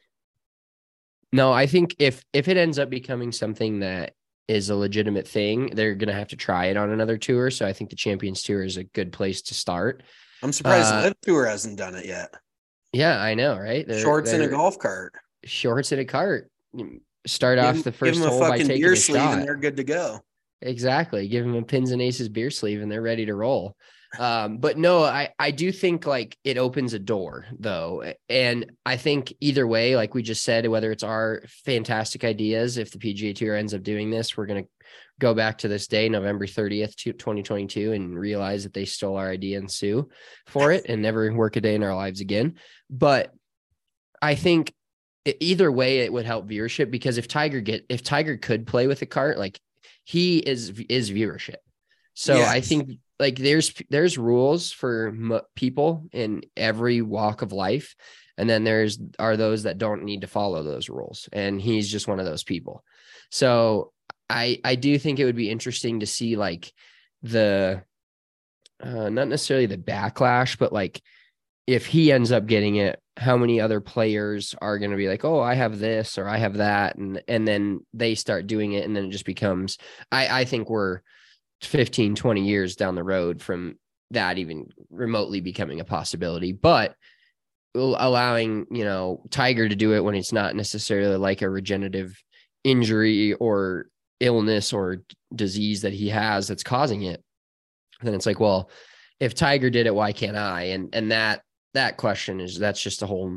No, I think if, if it ends up becoming something that is a legitimate thing, they're going to have to try it on another tour. So I think the Champions Tour is a good place to start. I'm surprised Uh, the Live Tour hasn't done it yet. Yeah, I know, right? They're, Shorts in a they're- golf cart. Shorts in a cart. Start Give off them- the give first them a hole by fucking taking beer a sleeve shot. and they're good to go. Exactly. Give them a Pins and Aces beer sleeve and they're ready to roll. Um, but no, I, I do think like it opens a door though. And I think either way, like we just said, whether it's our fantastic ideas, if the P G A Tour ends up doing this, we're going to go back to this day, November thirtieth, twenty twenty-two, and realize that they stole our idea and sue for it and never work a day in our lives again. But I think either way, it would help viewership because if Tiger get, if Tiger could play with a cart, like he is, is viewership. So Yes. I think like there's, there's rules for m- people in every walk of life. And then there's, are those that don't need to follow those rules. And he's just one of those people. So I, I do think it would be interesting to see like the, uh, not necessarily the backlash, but like if he ends up getting it, how many other players are going to be like, oh, I have this or I have that. And, and then they start doing it. And then it just becomes, I, I think we're fifteen, twenty years down the road from that even remotely becoming a possibility, but allowing, you know, Tiger to do it when it's not necessarily like a regenerative injury or illness or disease that he has that's causing it. Then it's like, well, if Tiger did it, why can't I? And, and that, that question is, that's just a whole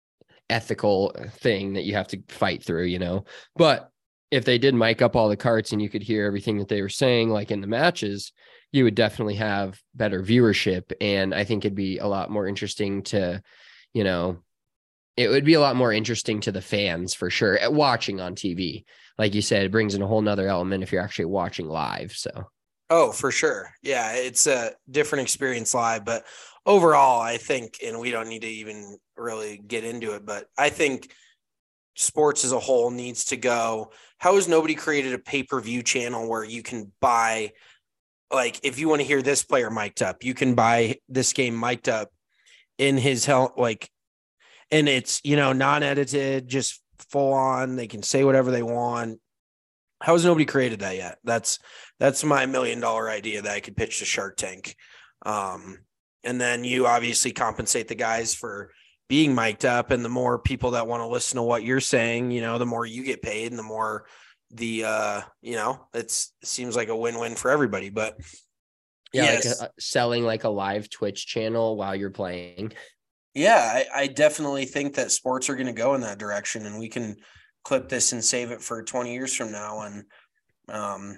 ethical thing that you have to fight through, you know, but if they did mic up all the carts and you could hear everything that they were saying, like in the matches, you would definitely have better viewership. And I think it'd be a lot more interesting to, you know, it would be a lot more interesting to the fans for sure at watching on T V. Like you said, it brings in a whole nother element if you're actually watching live. So. Oh, for sure. Yeah, it's a different experience live, but overall, I think, and we don't need to even really get into it, but I think sports as a whole needs to go. How has nobody created a pay-per-view channel where you can buy, like, if you want to hear this player mic'd up, you can buy this game mic'd up in his health, like, and it's, you know, non-edited, just full on. They can say whatever they want. How has nobody created that yet? That's that's my million dollar idea that I could pitch to Shark Tank. Um, and then you obviously compensate the guys for being mic'd up, and the more people that want to listen to what you're saying, you know, the more you get paid and the more the, uh, you know, it's, it seems like a win-win for everybody, but Yeah, yes. like a, selling like a live Twitch channel while you're playing. Yeah, I, I definitely think that sports are going to go in that direction, and we can clip this and save it for twenty years from now. And um,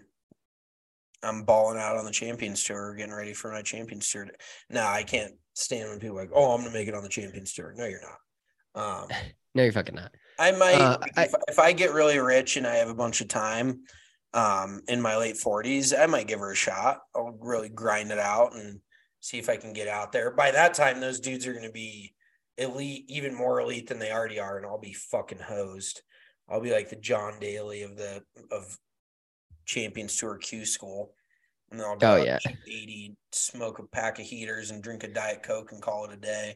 I'm balling out on the Champions Tour, getting ready for my Champions Tour. No, I can't stand when people are like, oh, I'm going to make it on the Champions Tour. No, you're not. Um, No, you're fucking not. I might, Uh, if, if I get really rich and I have a bunch of time um, in my late forties, I might give her a shot. I'll really grind it out and see if I can get out there. By that time, those dudes are going to be elite, even more elite than they already are, and I'll be fucking hosed. I'll be like the John Daly of the of Champions Tour Q School, and then I'll go Oh, out yeah. and shoot eighty, smoke a pack of heaters, and drink a Diet Coke and call it a day.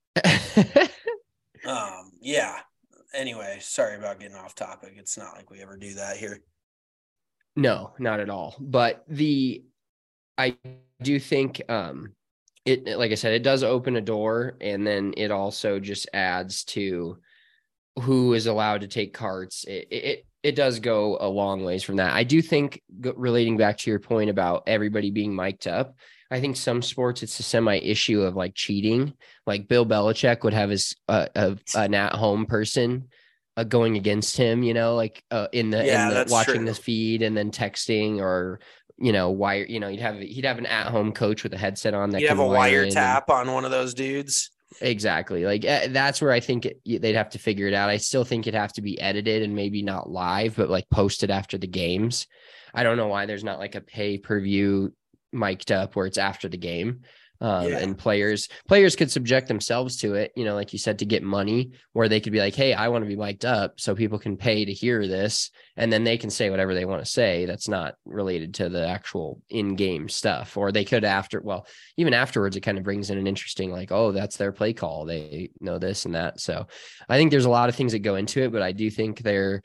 Um, yeah. Anyway, sorry about getting off topic. It's not like we ever do that here. No, not at all. But the, I do think, um, it, like I said, it does open a door, and then it also just adds to who is allowed to take carts. It, it, it does go a long ways from that. I do think, relating back to your point about everybody being mic'd up, I think some sports, it's a semi issue of like cheating. Like Bill Belichick would have his, uh, a, an at-home person uh, going against him, you know, like uh, in the, Yeah, in the that's watching true. this feed and then texting, or, you know, wire, you know, you'd have, he'd have an at-home coach with a headset on that You have can a wire in and- wiretap on one of those dudes. Exactly. Like uh, that's where I think it, they'd have to figure it out. I still think it'd have to be edited and maybe not live, but like posted after the games. I don't know why there's not like a pay per view mic'd up where it's after the game. Um, Yeah. and players, players could subject themselves to it, you know, like you said, to get money, where they could be like, hey, I want to be mic'd up so people can pay to hear this. And then they can say whatever they want to say. That's not related to the actual in-game stuff. Or they could after, well, even afterwards, it kind of brings in an interesting, like, oh, that's their play call. They know this and that. So I think there's a lot of things that go into it, but I do think there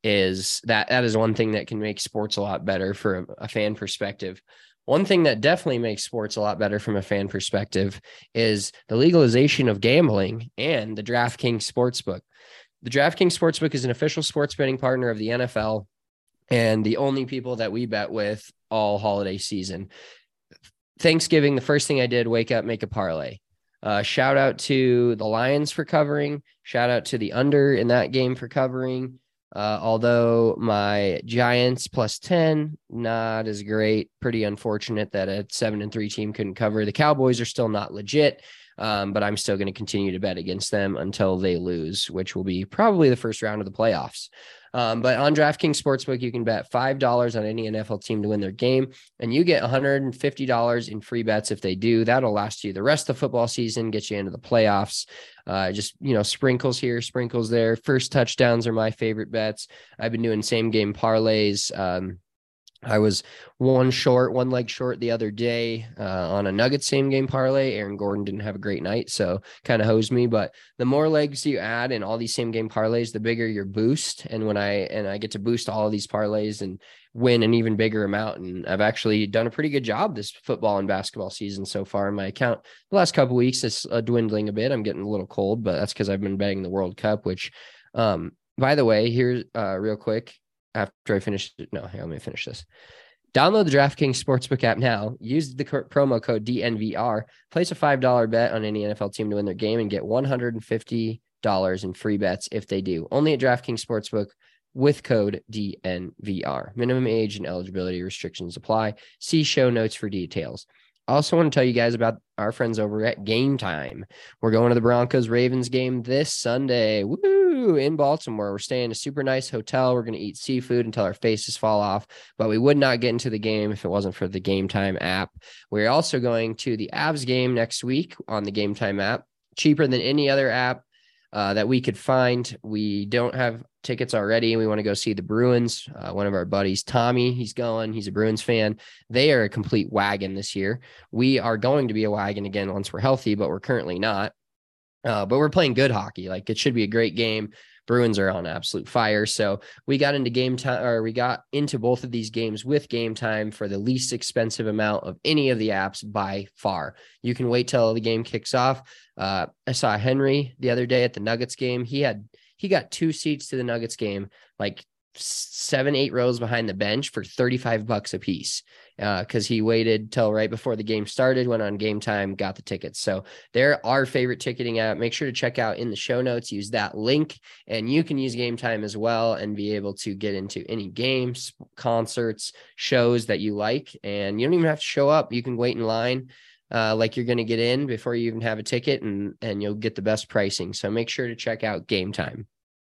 is that, that is one thing that can make sports a lot better for a, a fan perspective. One thing that definitely makes sports a lot better from a fan perspective is the legalization of gambling and the DraftKings Sportsbook. The DraftKings Sportsbook is an official sports betting partner of the N F L and the only people that we bet with all holiday season. Thanksgiving, the first thing I did, wake up, make a parlay. Uh, shout out to the Lions for covering. Shout out to the under in that game for covering. Uh, although my Giants plus ten, not as great. Pretty unfortunate that a seven and three team couldn't cover. The Cowboys are still not legit, um, but I'm still going to continue to bet against them until they lose, which will be probably the first round of the playoffs. Um, but on DraftKings Sportsbook, you can bet five dollars on any N F L team to win their game, and you get one hundred fifty dollars in free bets if they do. That'll last you the rest of the football season, get you into the playoffs. Uh, just, you know, sprinkles here, sprinkles there. First touchdowns are my favorite bets. I've been doing same game parlays. Um, I was one short, one leg short the other day uh, on a Nuggets same game parlay. Aaron Gordon didn't have a great night, so kind of hosed me. But the more legs you add in all these same game parlays, the bigger your boost. And when I and I get to boost all of these parlays and win an even bigger amount. And I've actually done a pretty good job this football and basketball season so far. My account the last couple of weeks is uh, dwindling a bit. I'm getting a little cold, but that's because I've been betting the World Cup. Which, um, by the way, here's uh, real quick. After I finish, no, here, let me finish this. Download the DraftKings Sportsbook app now. Use the co- promo code D N V R. Place a five dollars bet on any N F L team to win their game and get one hundred fifty dollars in free bets if they do. Only at DraftKings Sportsbook with code D N V R. Minimum age and eligibility restrictions apply. See show notes for details. I also want to tell you guys about our friends over at Game Time. We're going to the Broncos-Ravens game this Sunday. Woo! In Baltimore. We're staying in a super nice hotel. We're going to eat seafood until our faces fall off, but we would not get into the game if it wasn't for the Game Time app. We're also going to the Avs game next week on the Game Time app. Cheaper than any other app uh, that we could find. We don't have tickets already. We want to go see the Bruins. Uh, one of our buddies, Tommy, he's going. He's a Bruins fan. They are a complete wagon this year. We are going to be a wagon again once we're healthy, but we're currently not. Uh, but we're playing good hockey. Like, it should be a great game. Bruins are on absolute fire. So we got into game time, or we got into both of these games with Game Time for the least expensive amount of any of the apps by far. You can wait till the game kicks off. Uh, I saw Henry the other day at the Nuggets game. He had He got two seats to the Nuggets game, like seven, eight rows behind the bench for thirty-five bucks a piece. Uh, cause he waited till right before the game started, went on Game Time, got the tickets. So they're our favorite ticketing app. Make sure to check out in the show notes, use that link, and you can use Game Time as well and be able to get into any games, concerts, shows that you like. And you don't even have to show up. You can wait in line. Uh, like you're going to get in before you even have a ticket, and, and you'll get the best pricing. So make sure to check out Game Time.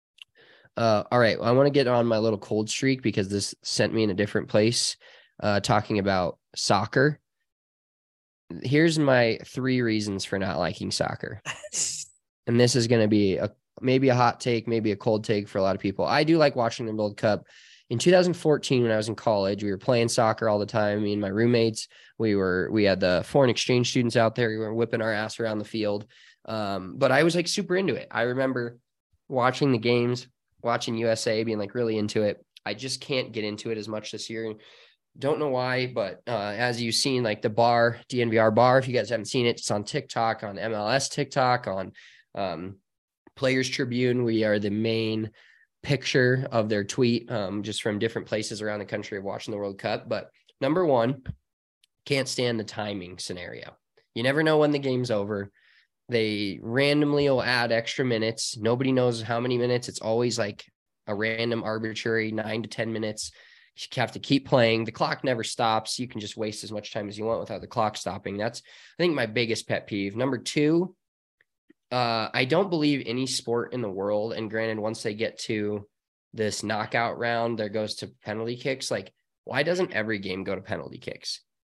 Uh, all right. Well, I want to get on my little cold streak because this sent me in a different place, uh, talking about soccer. Here's my three reasons for not liking soccer. And this is going to be a, maybe a hot take, maybe a cold take for a lot of people. I do like watching the World Cup. In two thousand fourteen, when I was in college, we were playing soccer all the time. Me and my roommates, we were, we had the foreign exchange students out there. We were whipping our ass around the field. Um, but I was like super into it. I remember watching the games, watching U S A, being like really into it. I just can't get into it as much this year. Don't know why, but uh, as you've seen, like the bar, D N V R bar, if you guys haven't seen it, it's on TikTok, on M L S TikTok, on um, Players Tribune. We are the main picture of their tweet, um, just from different places around the country of watching the World Cup. But number one, can't stand the timing scenario. You never know when the game's over. They randomly will add extra minutes. Nobody knows how many minutes. It's always like a random arbitrary nine to ten minutes. You have to keep playing. The clock never stops. You can just waste as much time as you want without the clock stopping. That's, I think, my biggest pet peeve. Number two, uh, I don't believe any sport in the world, and granted, once they get to this knockout round, there goes to penalty kicks. Like, why doesn't every game go to penalty kicks?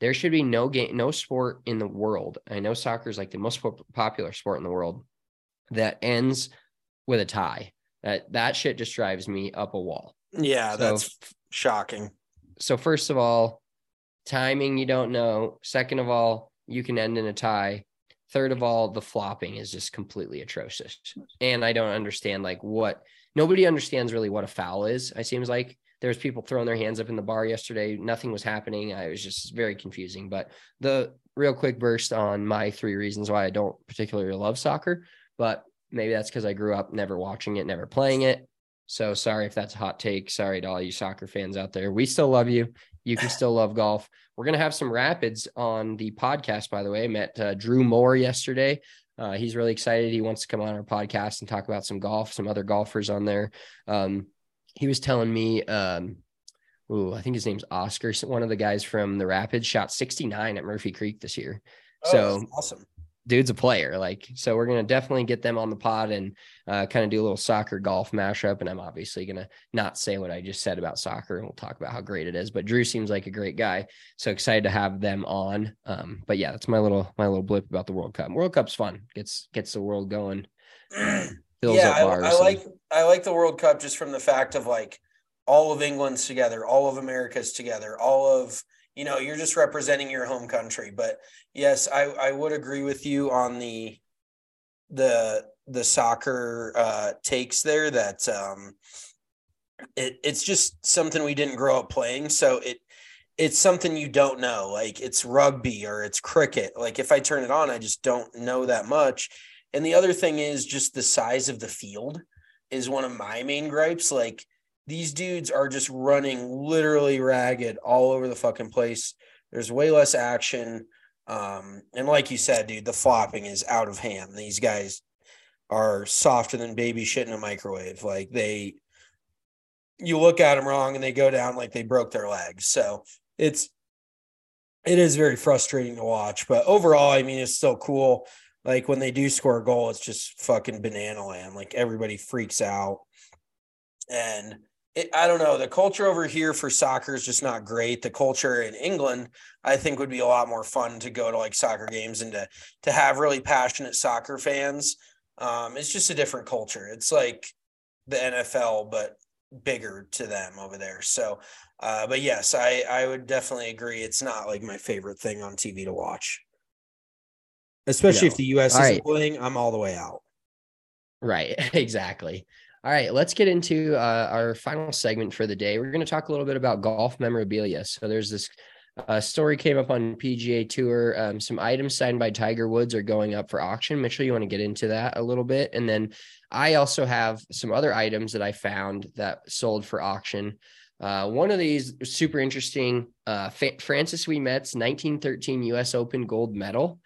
There should be no game, no sport in the world. I know soccer is like the most popular sport in the world that ends with a tie. That that shit just drives me up a wall. Yeah, so, that's shocking. So first of all, timing, you don't know. Second of all, you can end in a tie. Third of all, the flopping is just completely atrocious. And I don't understand like what nobody understands really what a foul is. It seems like there's people throwing their hands up in the bar yesterday. Nothing was happening. I was just very confusing. But the real quick burst on my three reasons why I don't particularly love soccer, but maybe that's because I grew up never watching it, never playing it. So sorry if that's a hot take. Sorry to all you soccer fans out there. We still love you. You can still love golf. We're going to have some Rapids on the podcast, by the way. I met uh, Drew Moore yesterday. Uh, he's really excited. He wants to come on our podcast and talk about some golf, some other golfers on there. Um, he was telling me, um, ooh, I think his name's Oscar. One of the guys from the Rapids shot sixty-nine at Murphy Creek this year. Oh, so that's awesome. Dude's a player. Like, so we're going to definitely get them on the pod and uh, kind of do a little soccer golf mashup. And I'm obviously going to not say what I just said about soccer, and we'll talk about how great it is, but Drew seems like a great guy. So excited to have them on. Um, but yeah, that's my little, my little blip about the World Cup. World Cup's fun. Gets, gets the world going. Um, yeah. I, I like, and, I like the World Cup just from the fact of like all of England's together, all of America's together, all of, you know, you're just representing your home country. But yes, I, I would agree with you on the the the soccer uh, takes there that um, it, it's just something we didn't grow up playing. So it it's something you don't know. Like it's rugby or it's cricket. Like if I turn it on, I just don't know that much. And the other thing is just the size of the field is one of my main gripes. Like these dudes are just running literally ragged all over the fucking place. There's way less action. Um, and like you said, dude, the flopping is out of hand. These guys are softer than baby shit in a microwave. Like they, you look at them wrong and they go down like they broke their legs. So it's, it is very frustrating to watch, but overall, I mean, it's still cool. Like when they do score a goal, it's just fucking banana land. Like everybody freaks out. And It, I don't know. The culture over here for soccer is just not great. The culture in England, I think, would be a lot more fun to go to like soccer games and to to have really passionate soccer fans. Um, it's just a different culture. It's like the N F L, but bigger to them over there. So, uh, but yes, I I would definitely agree. It's not like my favorite thing on T V to watch, especially no. if the U S all isn't right. playing. I'm all the way out. Right. Exactly. All right, let's get into uh, our final segment for the day. We're going to talk a little bit about golf memorabilia. So there's this uh, story came up on P G A Tour. Um, some items signed by Tiger Woods are going up for auction. Mitchell, you want to get into that a little bit? And then I also have some other items that I found that sold for auction. Uh, one of these is super interesting. Uh, F- Francis Ouimet's nineteen thirteen U S Open gold medal.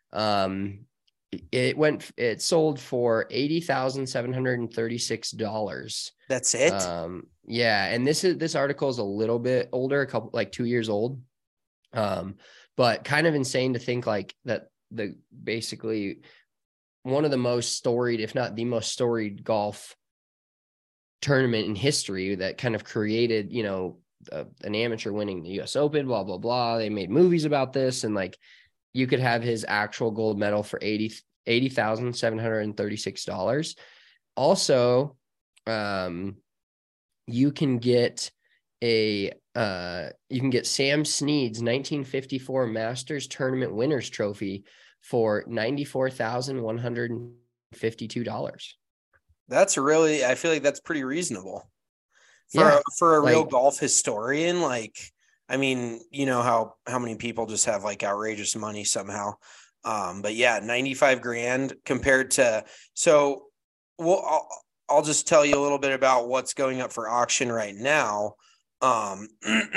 Um, It went, it sold for eighty thousand seven hundred thirty-six dollars. That's it. Um, yeah. And this is, this article is a little bit older, a couple, like two years old. Um, but kind of insane to think like that the basically one of the most storied, if not the most storied golf tournament in history that kind of created, you know, uh, an amateur winning the U S Open, blah, blah, blah. They made movies about this and like, you could have his actual gold medal for eighty thousand seven hundred thirty-six dollars. Also, um, you can get a uh, you can get Sam Snead's nineteen fifty-four Masters Tournament Winners Trophy for ninety-four thousand one hundred fifty-two dollars. That's really, I feel like that's pretty reasonable for yeah, for a real like, golf historian. Like, I mean, you know how, how many people just have like outrageous money somehow. Um, but yeah, ninety-five grand compared to, so well, I'll, I'll just tell you a little bit about what's going up for auction right now. Um,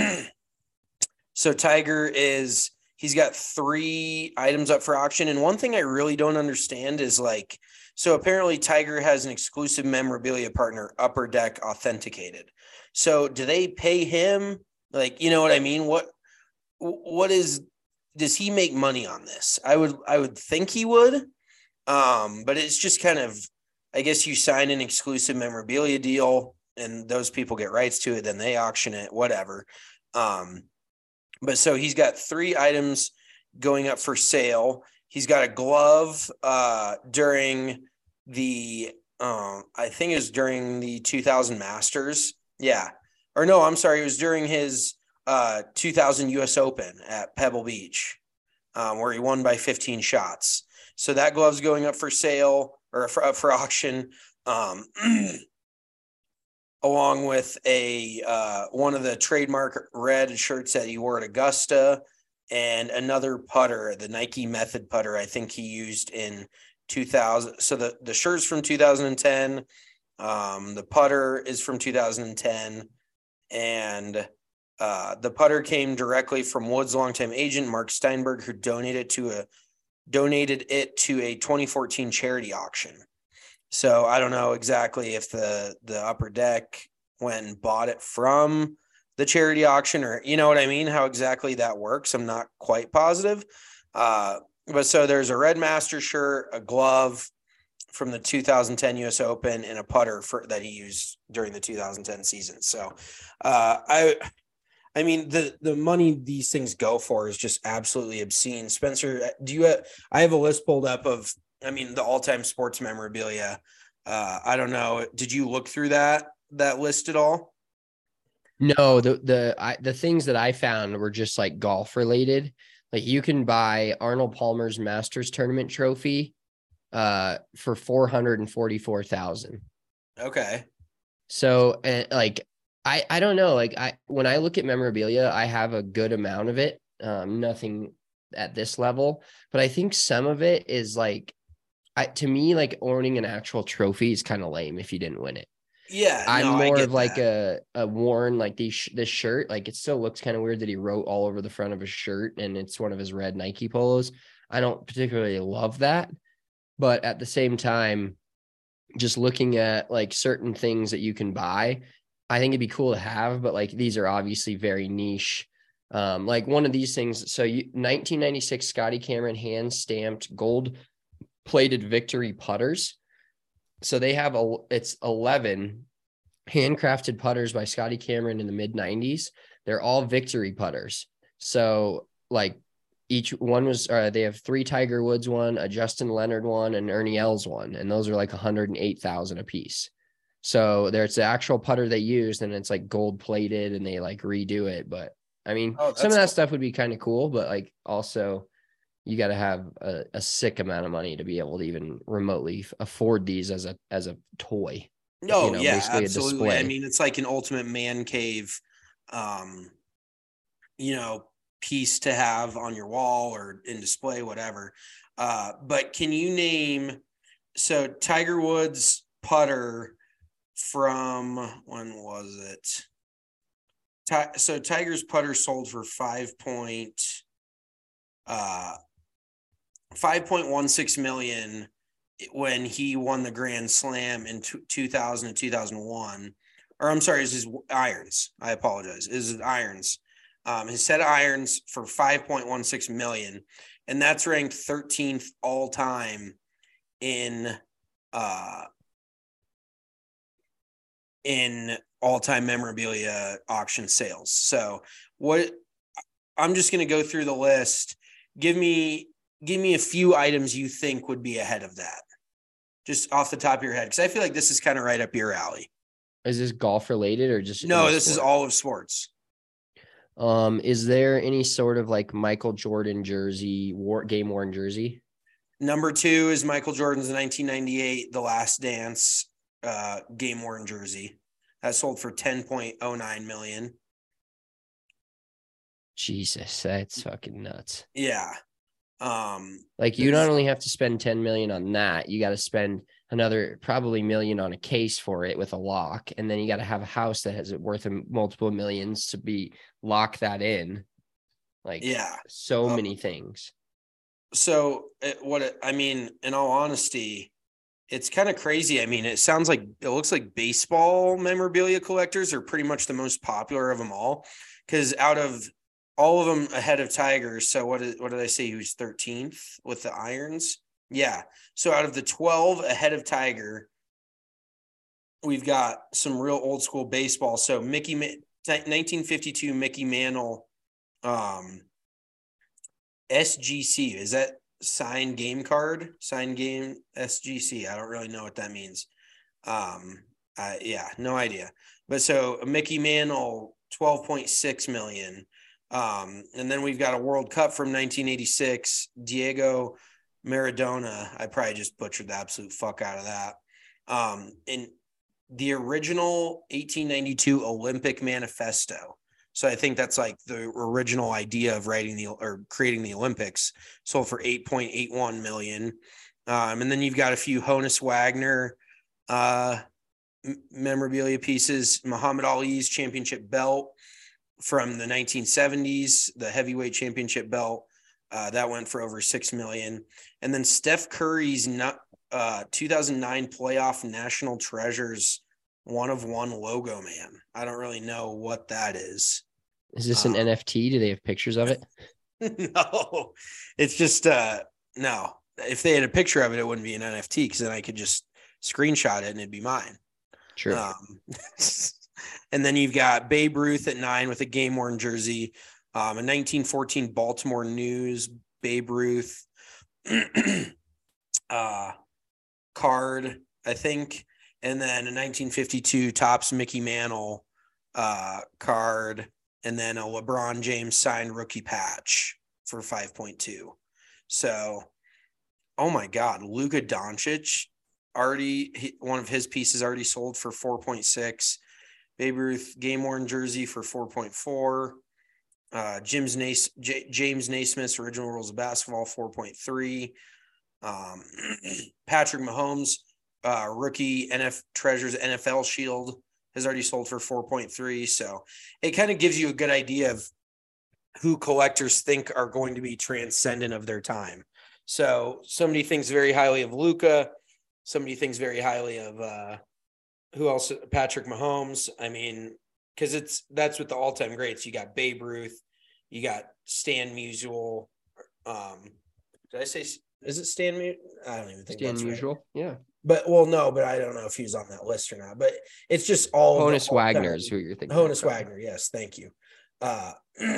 so Tiger is, he's got three items up for auction. And one thing I really don't understand is like, so apparently Tiger has an exclusive memorabilia partner, Upper Deck Authenticated. So do they pay him? Like, you know what I mean? What, what is, does he make money on this? I would, I would think he would. Um, but it's just kind of, I guess you sign an exclusive memorabilia deal and those people get rights to it. Then they auction it, whatever. Um, But so he's got three items going up for sale. He's got a glove uh, during the, um, I think it was during the two thousand Masters. Yeah. Or no, I'm sorry. It was during his uh, two thousand U S Open at Pebble Beach, um, where he won by fifteen shots. So that glove's going up for sale or for, up for auction. Um, along with a uh, one of the trademark red shirts that he wore at Augusta, and another putter, the Nike Method putter, I think he used in two thousand. So the, the shirt's from two thousand ten. Um, the putter is from two thousand ten. And uh, the putter came directly from Wood's longtime agent, Mark Steinberg, who donated to a donated it to a twenty fourteen charity auction. So I don't know exactly if the, the Upper Deck went and bought it from the charity auction, or, you know what I mean? How exactly that works. I'm not quite positive. Uh, but so there's a Red Master shirt, a glove from the two thousand ten U S Open, and a putter for that he used during the two thousand ten season. So uh, I, I mean, the, the money these things go for is just absolutely obscene. Spencer, do you have, I have a list pulled up of, I mean, the all-time sports memorabilia. Uh, I don't know. Did you look through that, that list at all? No, the, the, I, the things that I found were just like golf related. Like you can buy Arnold Palmer's Masters tournament trophy uh, for four hundred forty-four thousand. Okay. So uh, like, I, I don't know. Like I, when I look at memorabilia, I have a good amount of it. Um, nothing at this level, but I think some of it is like, I, to me, like owning an actual trophy is kind of lame if you didn't win it. Yeah, I'm no, more of that. like a, a worn, like these, this shirt. Like it still looks kind of weird that he wrote all over the front of his shirt and it's one of his red Nike polos. I don't particularly love that, but at the same time, just looking at like certain things that you can buy, I think it'd be cool to have, but like, these are obviously very niche. Um, like one of these things. So you, nineteen ninety-six Scotty Cameron hand stamped gold plated victory putters. So they have a, it's eleven handcrafted putters by Scotty Cameron in the mid nineties. They're all victory putters. So like each one was, uh, they have three Tiger Woods one, a Justin Leonard one, and Ernie Els one. And those are like one hundred eight thousand a piece. So there's the actual putter they used and it's like gold plated and they like redo it. But I mean, oh, some of that cool. stuff would be kind of cool, but like also you got to have a, a sick amount of money to be able to even remotely afford these as a, as a toy. No, you know, yeah, basically absolutely. A display. I mean, it's like an ultimate man cave, um, you know, piece to have on your wall or in display, whatever. Uh, but can you name, so Tiger Woods putter from, when was it? So Tiger's putter sold for five point, uh, five point one six million when he won the Grand Slam in two thousand and two thousand one. Or I'm sorry, is his irons. I apologize. Is his irons. Um, his set of irons for five point one six million, and that's ranked thirteenth all time in uh in all-time memorabilia auction sales. So what I'm just going to go through the list. Give me, give me a few items you think would be ahead of that, just off the top of your head. Cause I feel like this is kind of right up your alley. Is this golf related or just, no, this sport? Is all of sports. Um, is there any sort of like Michael Jordan jersey, war, game worn jersey? Number two is Michael Jordan's nineteen ninety-eight, The Last Dance, uh, game worn jersey. That sold for ten point oh nine million. Jesus, that's fucking nuts. Yeah. Um, like you not only have to spend ten million on that, you got to spend another probably million on a case for it with a lock. And then you got to have a house that has it worth multiple millions to be lock that in. Like, yeah, so um, many things. So it, what, it, I mean, in all honesty, it's kind of crazy. I mean, it sounds like, it looks like baseball memorabilia collectors are pretty much the most popular of them all. Cause out of all of them ahead of Tiger. So what did, what did I say? He was thirteenth with the irons. Yeah. So out of the twelve ahead of Tiger, we've got some real old school baseball. So Mickey, nineteen fifty-two Mickey Mantle Um, S G C, is that signed game card? Signed game S G C. I don't really know what that means. Um, uh, yeah, no idea. But so Mickey Mantle, twelve point six million. Um, and then we've got a World Cup from nineteen eighty-six, Diego Maradona. I probably just butchered the absolute fuck out of that. Um, in the original eighteen ninety-two Olympic Manifesto. So I think that's like the original idea of writing the or creating the Olympics, sold for eight point eight one million. Um, and then you've got a few Honus Wagner uh, memorabilia pieces, Muhammad Ali's championship belt from the nineteen seventies, the heavyweight championship belt. Uh, that went for over six million. And then Steph Curry's uh, two thousand nine playoff National Treasures one of one logo man. I don't really know what that is. Is this an um, N F T? Do they have pictures of it? No, it's just, uh, no. If they had a picture of it, it wouldn't be an N F T because then I could just screenshot it and it'd be mine. True. Um, and then you've got Babe Ruth at nine with a game worn jersey. Um, a nineteen fourteen Baltimore News Babe Ruth uh, card, I think. And then a nineteen fifty-two Topps Mickey Mantle uh, card. And then a LeBron James signed rookie patch for five point two. So, oh my God, Luka Doncic already, he, one of his pieces already sold for four point six. Babe Ruth game worn jersey for four point four. Uh, James, Nace, J, James Naismith's original rules of basketball, four point three. Um, Patrick Mahomes, uh, rookie N F Treasures N F L Shield has already sold for four point three. So it kind of gives you a good idea of who collectors think are going to be transcendent of their time. So somebody thinks very highly of Luka. Somebody thinks very highly of uh, who else? Patrick Mahomes. I mean, because it's that's with the all-time greats. You got Babe Ruth. You got Stan Musial. Um, did I say, is it Stan Musial? I don't even think Stan that's Musial. right. Yeah. But, well, no, but I don't know if he was on that list or not. But it's just all Honus Wagner is who you're thinking. Honus Wagner, yes, thank you. Uh,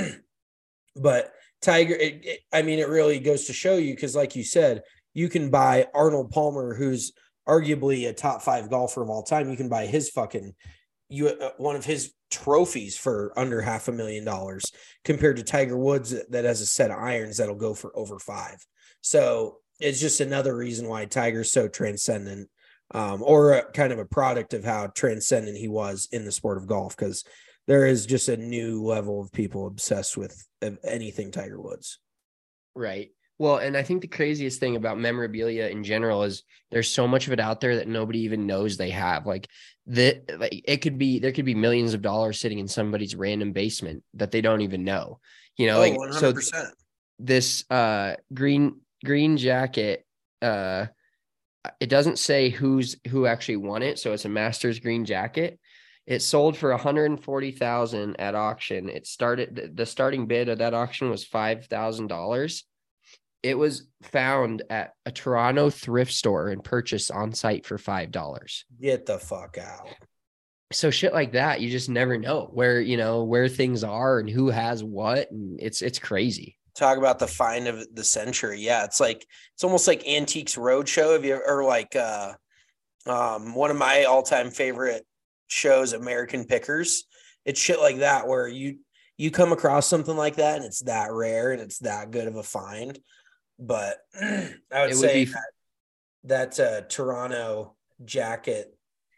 but Tiger, it, it, I mean, it really goes to show you because, like you said, you can buy Arnold Palmer, who's arguably a top five golfer of all time. You can buy his fucking you uh, one of his trophies for under half a million dollars compared to Tiger Woods that has a set of irons that'll go for over five. So it's just another reason why Tiger's so transcendent, um, or a, kind of a product of how transcendent he was in the sport of golf, because there is just a new level of people obsessed with anything Tiger Woods. Right. Well, and I think the craziest thing about memorabilia in general is there's so much of it out there that nobody even knows they have. Like that, like it could be, there could be millions of dollars sitting in somebody's random basement that they don't even know, you know, oh, like, one hundred percent. So this uh, green, green jacket, uh, it doesn't say who's, who actually won it. So it's a Masters green jacket. It sold for one hundred forty thousand dollars at auction. It started, the starting bid of that auction was five thousand dollars. It was found at a Toronto thrift store and purchased on site for five dollars. Get the fuck out. So shit like that, you just never know where, you know, where things are and who has what. And it's, it's crazy. Talk about the find of the century. Yeah. It's like, it's almost like Antiques Roadshow. Have you or like, uh, um, one of my all time favorite shows, American Pickers. It's shit like that, where you, you come across something like that and it's that rare and it's that good of a find. But I would, it say would be... that, that uh, Toronto jacket,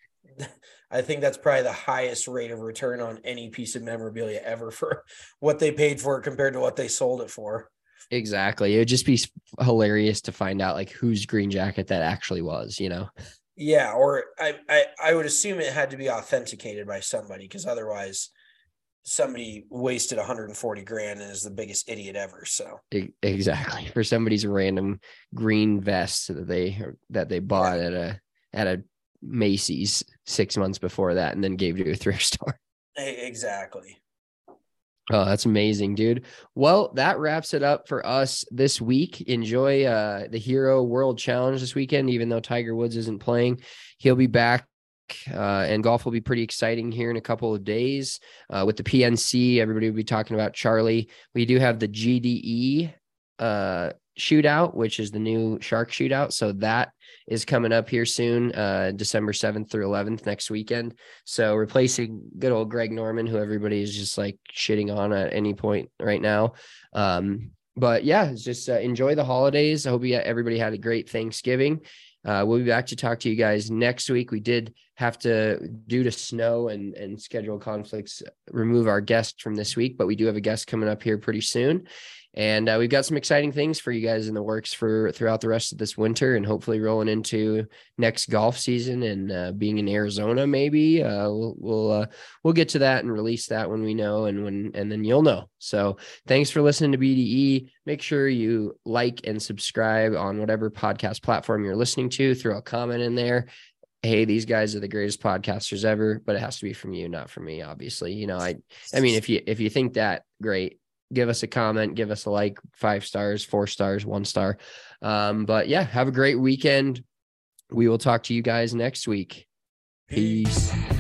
I think that's probably the highest rate of return on any piece of memorabilia ever for what they paid for it compared to what they sold it for. Exactly. It would just be hilarious to find out like whose green jacket that actually was, you know? Yeah. Or I, I, I would assume it had to be authenticated by somebody, because otherwise somebody wasted one hundred forty grand and is the biggest idiot ever. So exactly, for somebody's random green vest that they that they bought yeah. at a at a Macy's six months before that and then gave to a thrift store. Exactly. Oh, that's amazing, dude. Well, that wraps it up for us this week. Enjoy uh, the Hero World Challenge this weekend, even though Tiger Woods isn't playing. He'll be back week, uh, and golf will be pretty exciting here in a couple of days uh, with the P N C. Everybody will be talking about Charlie. We do have the G D E uh, shootout, which is the new shark shootout. So that is coming up here soon, uh, December seventh through eleventh next weekend. So replacing good old Greg Norman, who everybody is just like shitting on at any point right now. Um, but yeah, just uh, enjoy the holidays. I hope you, everybody had a great Thanksgiving. Uh, we'll be back to talk to you guys next week. We did have to, due to snow and, and schedule conflicts, remove our guest from this week, but we do have a guest coming up here pretty soon. And uh, we've got some exciting things for you guys in the works for throughout the rest of this winter, and hopefully rolling into next golf season and uh, being in Arizona. Maybe uh, we'll we'll uh, we'll get to that and release that when we know, and when and then you'll know. So thanks for listening to B D E. Make sure you like and subscribe on whatever podcast platform you're listening to. Throw a comment in there. Hey, these guys are the greatest podcasters ever, but it has to be from you, not from me, obviously. You know, I I mean, if you if you think that, great. Give us a comment, give us a like, five stars, four stars, one star. Um, but yeah, have a great weekend. We will talk to you guys next week. Peace.